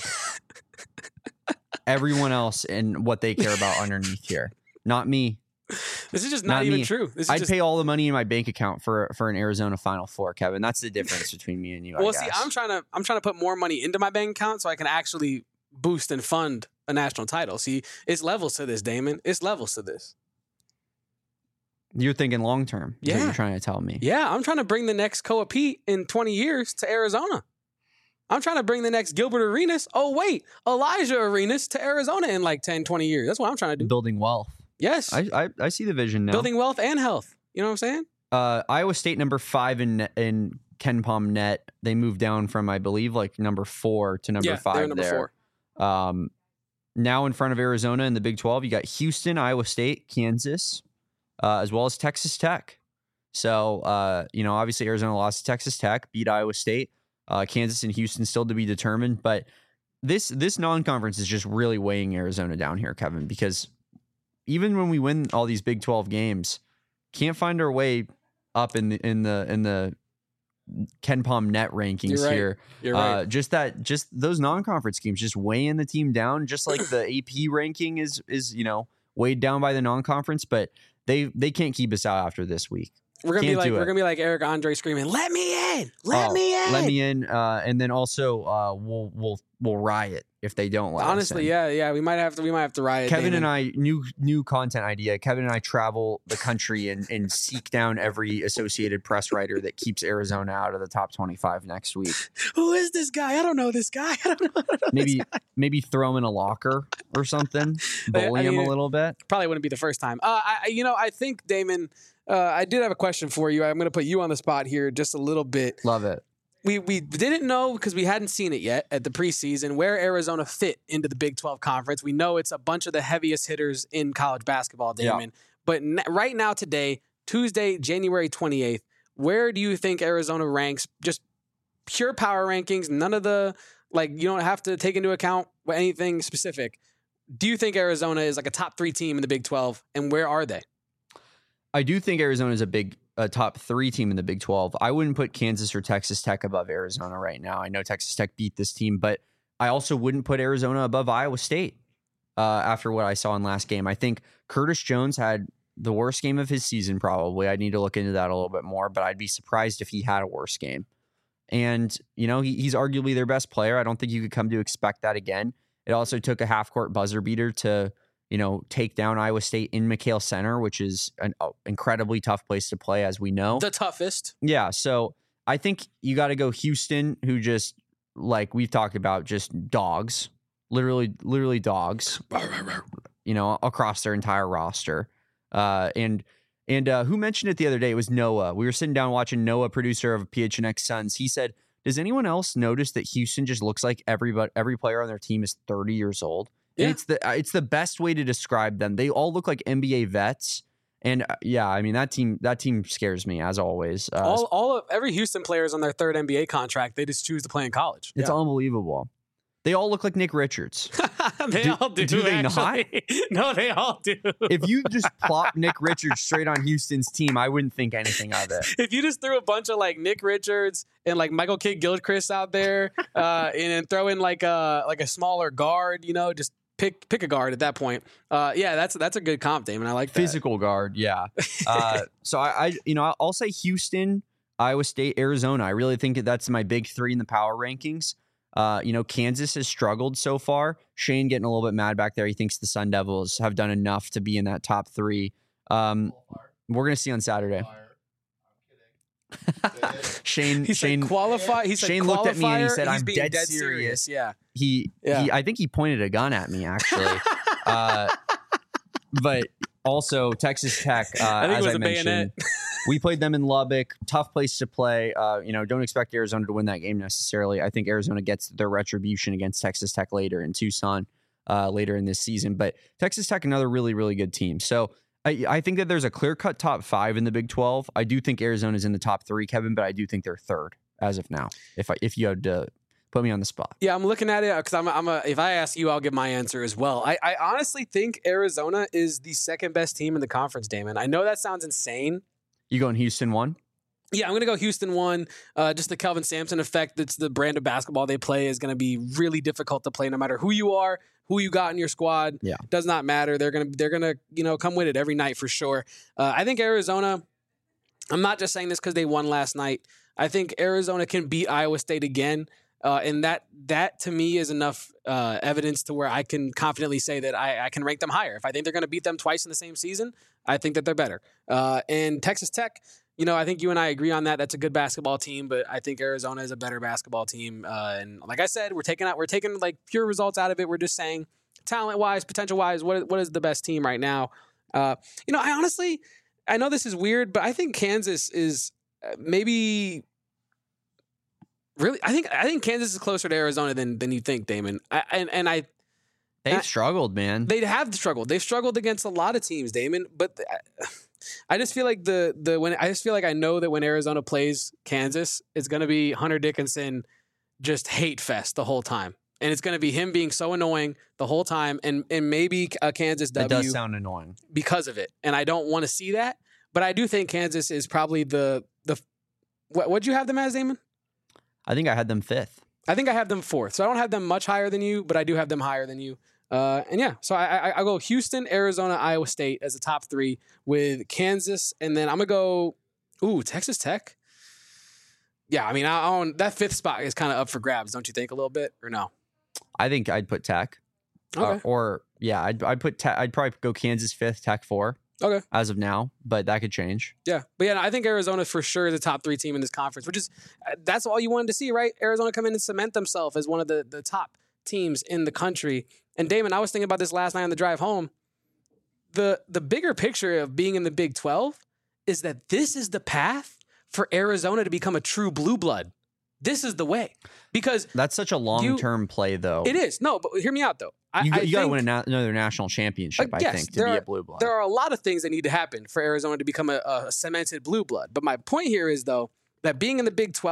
Everyone else and what they care about underneath here. Not me. This is just not, not even me. true. This is I'd just... pay all the money in my bank account for for an Arizona Final Four, Kevin. That's the difference between me and you. Well, I see, guess. I'm trying to I'm trying to put more money into my bank account so I can actually boost and fund a national title. See, it's levels to this, Damon. It's levels to this. You're thinking long term. Yeah, what you're trying to tell me. Yeah, I'm trying to bring the next Koa Pete in twenty years to Arizona. I'm trying to bring the next Gilbert Arenas. Oh wait, Elijah Arenas to Arizona in like ten, twenty years. That's what I'm trying to do. Building wealth. Yes, I I, I see the vision now. Building wealth and health. You know what I'm saying? Uh, Iowa State number five in in KenPom net. They moved down from I believe like number four to number yeah, five. They're number there. four. Um, now in front of Arizona in the Big twelve, you got Houston, Iowa State, Kansas, uh, as well as Texas Tech. So, uh, you know, obviously Arizona lost to Texas Tech, beat Iowa State, uh, Kansas and Houston still to be determined. But this this non-conference is just really weighing Arizona down here, Kevin, because even when we win all these Big twelve games, can't find our way up in the in the in the KenPom net rankings You're right. here. You're right. Uh, just that, just those non-conference games, just weighing the team down. Just like the A P ranking is is you know weighed down by the non-conference, but they they can't keep us out after this week. We're gonna Can't be like do we're it. gonna be like Eric Andre screaming, "Let me in! Let Oh, me in! Let me in!" Uh, and then also uh, we'll we'll we'll riot if they don't let Honestly, us in. yeah, yeah, we might have to we might have to riot. Kevin Damon. and I, new new content idea. Kevin and I travel the country and, and seek down every Associated Press writer that keeps Arizona out of the top twenty-five next week. Who is this guy? I don't know this guy. I don't know. I don't know Maybe this guy. maybe throw him in a locker or something. I Bully him mean, a little bit. Probably wouldn't be the first time. Uh, I, you know, I think Damon. Uh, I did have a question for you. I'm going to put you on the spot here just a little bit. Love it. We we didn't know because we hadn't seen it yet at the preseason where Arizona fit into the Big twelve conference. We know it's a bunch of the heaviest hitters in college basketball, Damon. Yeah. But n- right now, today, Tuesday, January twenty-eighth, where do you think Arizona ranks just pure power rankings, none of the, like, you don't have to take into account anything specific. Do you think Arizona is like a top three team in the Big twelve, and where are they? I do think Arizona is a big a top three team in the Big twelve. I wouldn't put Kansas or Texas Tech above Arizona right now. I know Texas Tech beat this team, but I also wouldn't put Arizona above Iowa State uh, after what I saw in last game. I think Curtis Jones had the worst game of his season, probably. I need to look into that a little bit more, but I'd be surprised if he had a worse game. And, you know, he, he's arguably their best player. I don't think you could come to expect that again. It also took a half-court buzzer beater to, you know, take down Iowa State in McKale Center, which is an uh, incredibly tough place to play, as we know. The toughest. Yeah, so I think you got to go Houston, who just, like we've talked about, just dogs. Literally, literally dogs, you know, across their entire roster. Uh, and and uh, who mentioned it the other day? It was Noah. We were sitting down watching Noah, producer of P H N X Suns. He said, does anyone else notice that Houston just looks like everybody, every player on their team is thirty years old? Yeah. And it's the it's the best way to describe them. They all look like N B A vets. And uh, yeah, I mean, that team that team scares me, as always. Uh, all all of every Houston player is on their third N B A contract. They just choose to play in college. It's yeah. unbelievable. They all look like Nick Richards. they do, all do. Do they actually. not? No, they all do. If you just plop Nick Richards straight on Houston's team, I wouldn't think anything of it. If you just threw a bunch of like Nick Richards and like Michael Kidd Gilchrist out there, uh, and then throw in like a like a smaller guard, you know, just pick pick a guard at that point. Uh, yeah, that's that's a good comp, Damon. I like that. Physical guard, yeah. Uh, so I, I, you know, I'll say Houston, Iowa State, Arizona. I really think that that's my big three in the power rankings. Uh, you know, Kansas has struggled so far. Shane getting a little bit mad back there. He thinks the Sun Devils have done enough to be in that top three. Um, we're gonna see on Saturday. Shane, he Shane, said qualify. He said Shane looked at me and he said, He's "I'm being dead, dead serious." serious. Yeah, he, yeah. he, I think he pointed a gun at me actually. uh, but also Texas Tech, uh, I think as it was I a mentioned. bayonet. We played them in Lubbock. Tough place to play. Uh, you know, don't expect Arizona to win that game necessarily. I think Arizona gets their retribution against Texas Tech later in Tucson uh, later in this season. But Texas Tech, another really, really good team. So I, I think that there's a clear-cut top five in the Big twelve. I do think Arizona's in the top three, Kevin, but I do think they're third as of now. If I, if you had to put me on the spot. Yeah, I'm looking at it because I'm, I'm a, if I ask you, I'll give my answer as well. I, I honestly think Arizona is the second best team in the conference, Damon. I know that sounds insane. You going Houston one? Yeah, I'm going to go Houston one. Uh, just the Kelvin Sampson effect. That's the brand of basketball they play is going to be really difficult to play no matter who you are, who you got in your squad. Yeah. Does not matter. They're going to, they're going to, you know, come with it every night for sure. Uh, I think Arizona, I'm not just saying this because they won last night. I think Arizona can beat Iowa State again. Uh, and that, that to me is enough uh, evidence to where I can confidently say that I, I can rank them higher. If I think they're going to beat them twice in the same season, I think that they're better. Uh, and Texas Tech, you know, I think you and I agree on that. That's a good basketball team, but I think Arizona is a better basketball team. Uh, and like I said, we're taking out, we're taking like pure results out of it. We're just saying talent wise, potential wise, what, what is the best team right now? Uh, you know, I honestly, I know this is weird, but I think Kansas is maybe really, I think, I think Kansas is closer to Arizona than, than you think, Damon. I, and, and I, They've I, struggled, man. They have struggled. They've struggled against a lot of teams, Damon. But the, I just feel like the the when I just feel like I know that when Arizona plays Kansas, it's going to be Hunter Dickinson just hate fest the whole time, and it's going to be him being so annoying the whole time, and and maybe a Kansas W. It does sound annoying because of it, and I don't want to see that. But I do think Kansas is probably the the what what'd you have them as, Damon? I think I had them fifth. I think I have them fourth, so I don't have them much higher than you, but I do have them higher than you. Uh, and yeah, so I, I I go Houston, Arizona, Iowa State as the top three with Kansas, and then I'm gonna go ooh Texas Tech. Yeah, I mean I own that fifth spot is kind of up for grabs, don't you think a little bit or no? I think I'd put Tech. Okay. Uh, or yeah, I'd I'd put Tech, I'd probably go Kansas fifth, Tech four. Okay. As of now, but that could change. Yeah, but yeah, I think Arizona for sure is the top three team in this conference, which is that's all you wanted to see, right? Arizona come in and cement themselves as one of the the top teams in the country. And Damon, I was thinking about this last night on the drive home. The the bigger picture of being in the Big twelve is that this is the path for Arizona to become a true blue blood. This is the way. Because that's such a long-term play, though. It is. No, but hear me out, though. I, you I you got to think, win a na- another national championship, uh, I yes, think, to be are, a blue blood. There are a lot of things that need to happen for Arizona to become a, a cemented blue blood. But my point here is, though, that being in the Big twelve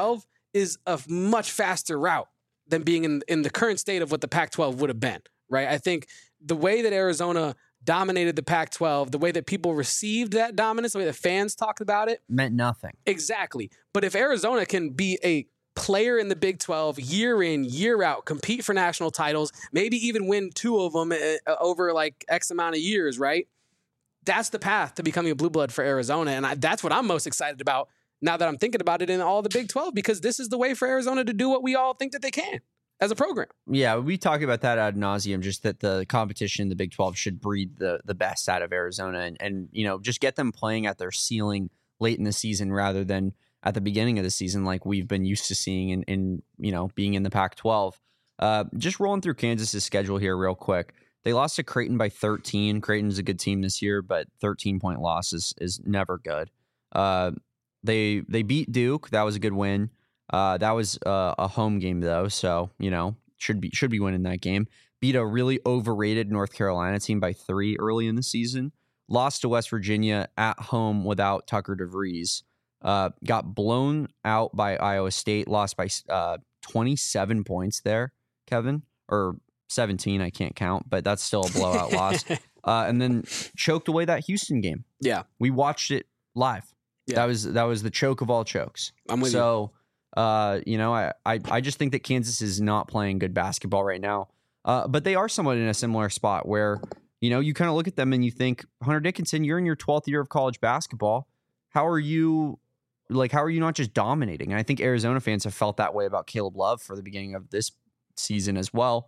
is a much faster route than being in, in the current state of what the Pac twelve would have been, right? I think the way that Arizona dominated the Pac twelve, the way that people received that dominance, the way that fans talked about it, meant nothing. Exactly. But if Arizona can be a player in the Big twelve year in, year out, compete for national titles, maybe even win two of them uh, over like X amount of years, right? That's the path to becoming a blue blood for Arizona. And I, that's what I'm most excited about now that I'm thinking about it in all the Big twelve, because this is the way for Arizona to do what we all think that they can as a program. Yeah, we talk about that ad nauseum, just that the competition in the Big twelve should breed the the best out of Arizona and, and, you know, just get them playing at their ceiling late in the season rather than at the beginning of the season like we've been used to seeing in, in you know, being in the Pac twelve. Uh, just rolling through Kansas's schedule here real quick. They lost to Creighton by thirteen. Creighton's a good team this year, but thirteen-point loss is, is never good. Uh, they they beat Duke. That was a good win. Uh, that was uh, a home game, though, so, you know, should be should be winning that game. Beat a really overrated North Carolina team by three early in the season. Lost to West Virginia at home without Tucker DeVries. Uh, got blown out by Iowa State. Lost by uh, twenty-seven points there, Kevin. Or seventeen, I can't count, but that's still a blowout loss. Uh, and then choked away that Houston game. Yeah. We watched it live. Yeah. That was that was the choke of all chokes. I'm with so, you. Uh, you know, I, I I just think that Kansas is not playing good basketball right now. Uh, but they are somewhat in a similar spot where, you know, you kind of look at them and you think, Hunter Dickinson, you're in your twelfth year of college basketball. How are you, like, how are you not just dominating? And I think Arizona fans have felt that way about Caleb Love for the beginning of this season as well.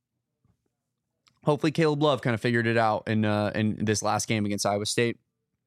Hopefully Caleb Love kind of figured it out in uh, in this last game against Iowa State.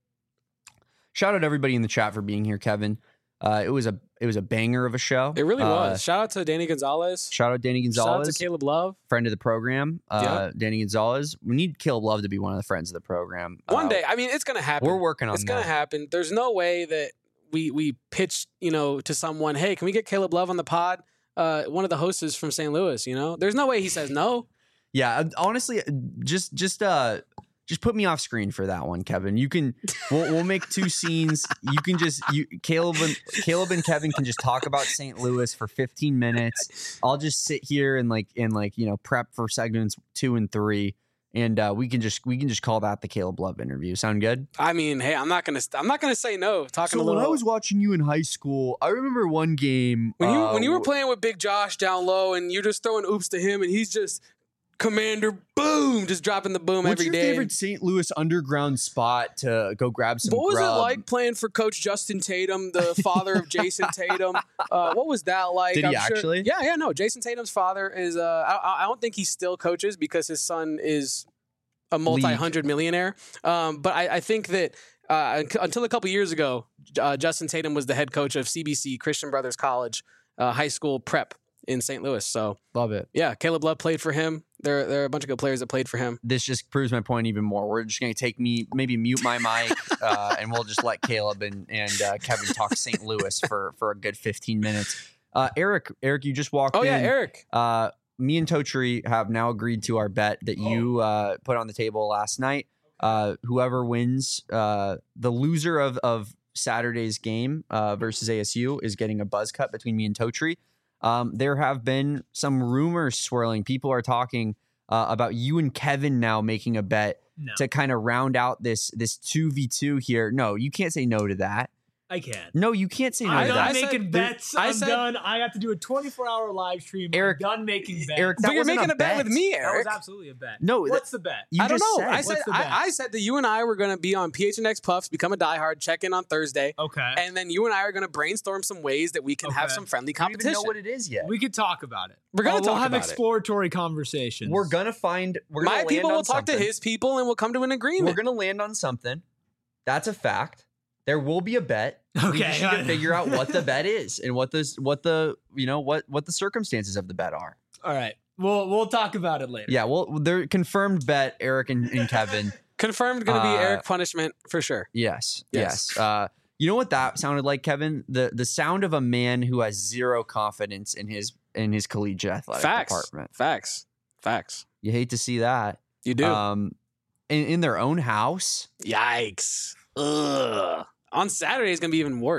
Shout out to everybody in the chat for being here, Kevin. Uh, it was a it was a banger of a show. It really uh, was. Shout out to Danny Gonzalez. Shout out Danny Gonzalez. Shout out to Caleb Love, friend of the program. Uh, yeah. Danny Gonzalez. We need Caleb Love to be one of the friends of the program. One uh, day. I mean, it's gonna happen. We're working on it's that. It's gonna happen. There's no way that we we pitch, you know, to someone, hey, can we get Caleb Love on the pod? Uh, one of the hosts is from Saint Louis. You know, there's no way he says no. Yeah, honestly, just just uh, just put me off screen for that one, Kevin. You can we'll, we'll make two scenes. You can just you Caleb and Caleb and Kevin can just talk about Saint Louis for fifteen minutes. I'll just sit here and like and like you know prep for segments two and three, and uh, we can just we can just call that the Caleb Love interview. Sound good? I mean, hey, I'm not gonna I'm not gonna say no. Talking so a little. When I was watching you in high school, I remember one game when you uh, when you were playing with Big Josh down low, and you're just throwing oops to him, and he's just Commander boom, just dropping the boom What's every your day. favorite Saint Louis underground spot to go grab some What was grub? it like playing for Coach Justin Tatum, the father of Jason Tatum? Uh, what was that like? Did he I'm sure, actually? Yeah, yeah, no. Jason Tatum's father is, uh, I, I don't think he still coaches because his son is a multi-hundred millionaire. Um, but I, I think that uh, until a couple years ago, uh, Justin Tatum was the head coach of C B C, Christian Brothers College, uh, high school prep in Saint Louis. So Love it. Yeah, Caleb Love played for him. There, there are a bunch of good players that played for him. This just proves my point even more. We're just going to take me, maybe mute my mic, uh, and we'll just let Caleb and, and uh, Kevin talk Saint Louis for, for a good fifteen minutes. Uh, Eric, Eric, you just walked oh, in. Oh, yeah, Eric. Uh, me and Totri have now agreed to our bet that you uh, put on the table last night. Uh, whoever wins, uh, the loser of, of Saturday's game uh, versus A S U is getting a buzz cut between me and Totri. Um, there have been some rumors swirling. People are talking uh, about you and Kevin now making a bet no. to kind of round out this this two v two here. No, you can't say no to that. I can. No, you can't say no I'm to done that. making said, bets. I I'm said, done. I have to do a twenty-four hour live stream. Eric, I'm done making bets. Eric, that but you're wasn't making a bet. bet with me, that Eric. was absolutely a bet. No, what's that, the bet? You I don't just know. Said. I said I, I said that you and I were going to be on P H N X Puffs, become a diehard, check in on Thursday. Okay. And then you and I are going to brainstorm some ways that we can Okay. have some friendly I don't competition. even know what it is yet. We could talk about it. We're gonna Oh, talk we'll have about it. exploratory conversations. We're gonna find. We're gonna My land people on will talk something. to his people, and we'll come to an We're agreement. gonna land on something. That's a fact. There will be a bet. We Okay. just need to figure out what the bet is and what the what the you know what what the circumstances of the bet are. All right. We'll we'll talk about it later. Yeah, well, they're confirmed bet. Eric and, and Kevin. Confirmed going to be Uh, Eric punishment for sure. Yes, Yes. yes. Uh, you know what that sounded like, Kevin? The the sound of a man who has zero confidence in his in his collegiate athletic Facts. department. Facts. Facts. You hate to see that. You do. Um, in, in their own house. Yikes. Ugh. On Saturday is going to be even worse.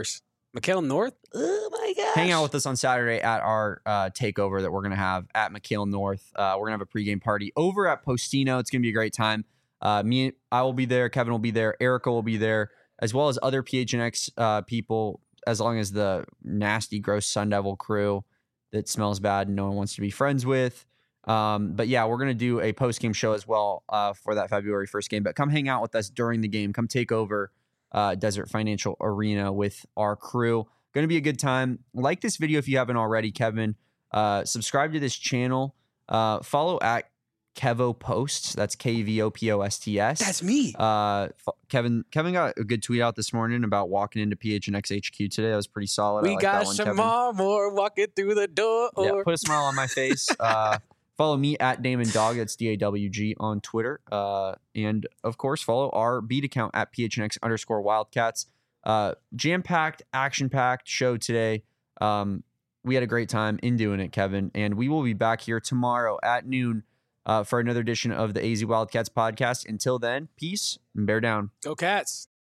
McHale North? Oh my gosh. Hang out with us on Saturday at our uh, takeover that we're going to have at McHale North. Uh, we're going to have a pregame party over at Postino. It's going to be a great time. Uh, me, I will be there. Kevin will be there. Erica will be there, as well as other P H N X uh, people, as long as the nasty, gross Sun Devil crew that smells bad and no one wants to be friends with. Um, but yeah, we're going to do a post-game show as well uh, for that February first game. But come hang out with us during the game. Come take over uh, Desert Financial Arena with our crew. Going to be a good time. Like this video if you haven't already, Kevin. Uh, subscribe to this channel. Uh, follow at Kevo Posts. That's K V O P O S T S. That's me. Uh, f- Kevin Kevin got a good tweet out this morning about walking into P H N X H Q today. That was pretty solid. I We like got that one, some Kevin. more walking through the door. Yeah, put a smile on my face. Uh, follow me at Damon Dog. That's D A W G on Twitter. Uh, and of course, follow our beat account at P H N X underscore Wildcats. Uh, jam-packed, action-packed show today. Um, we had a great time in doing it, Kevin. And we will be back here tomorrow at noon uh, for another edition of the A Z Wildcats podcast. Until then, peace and bear down. Go Cats.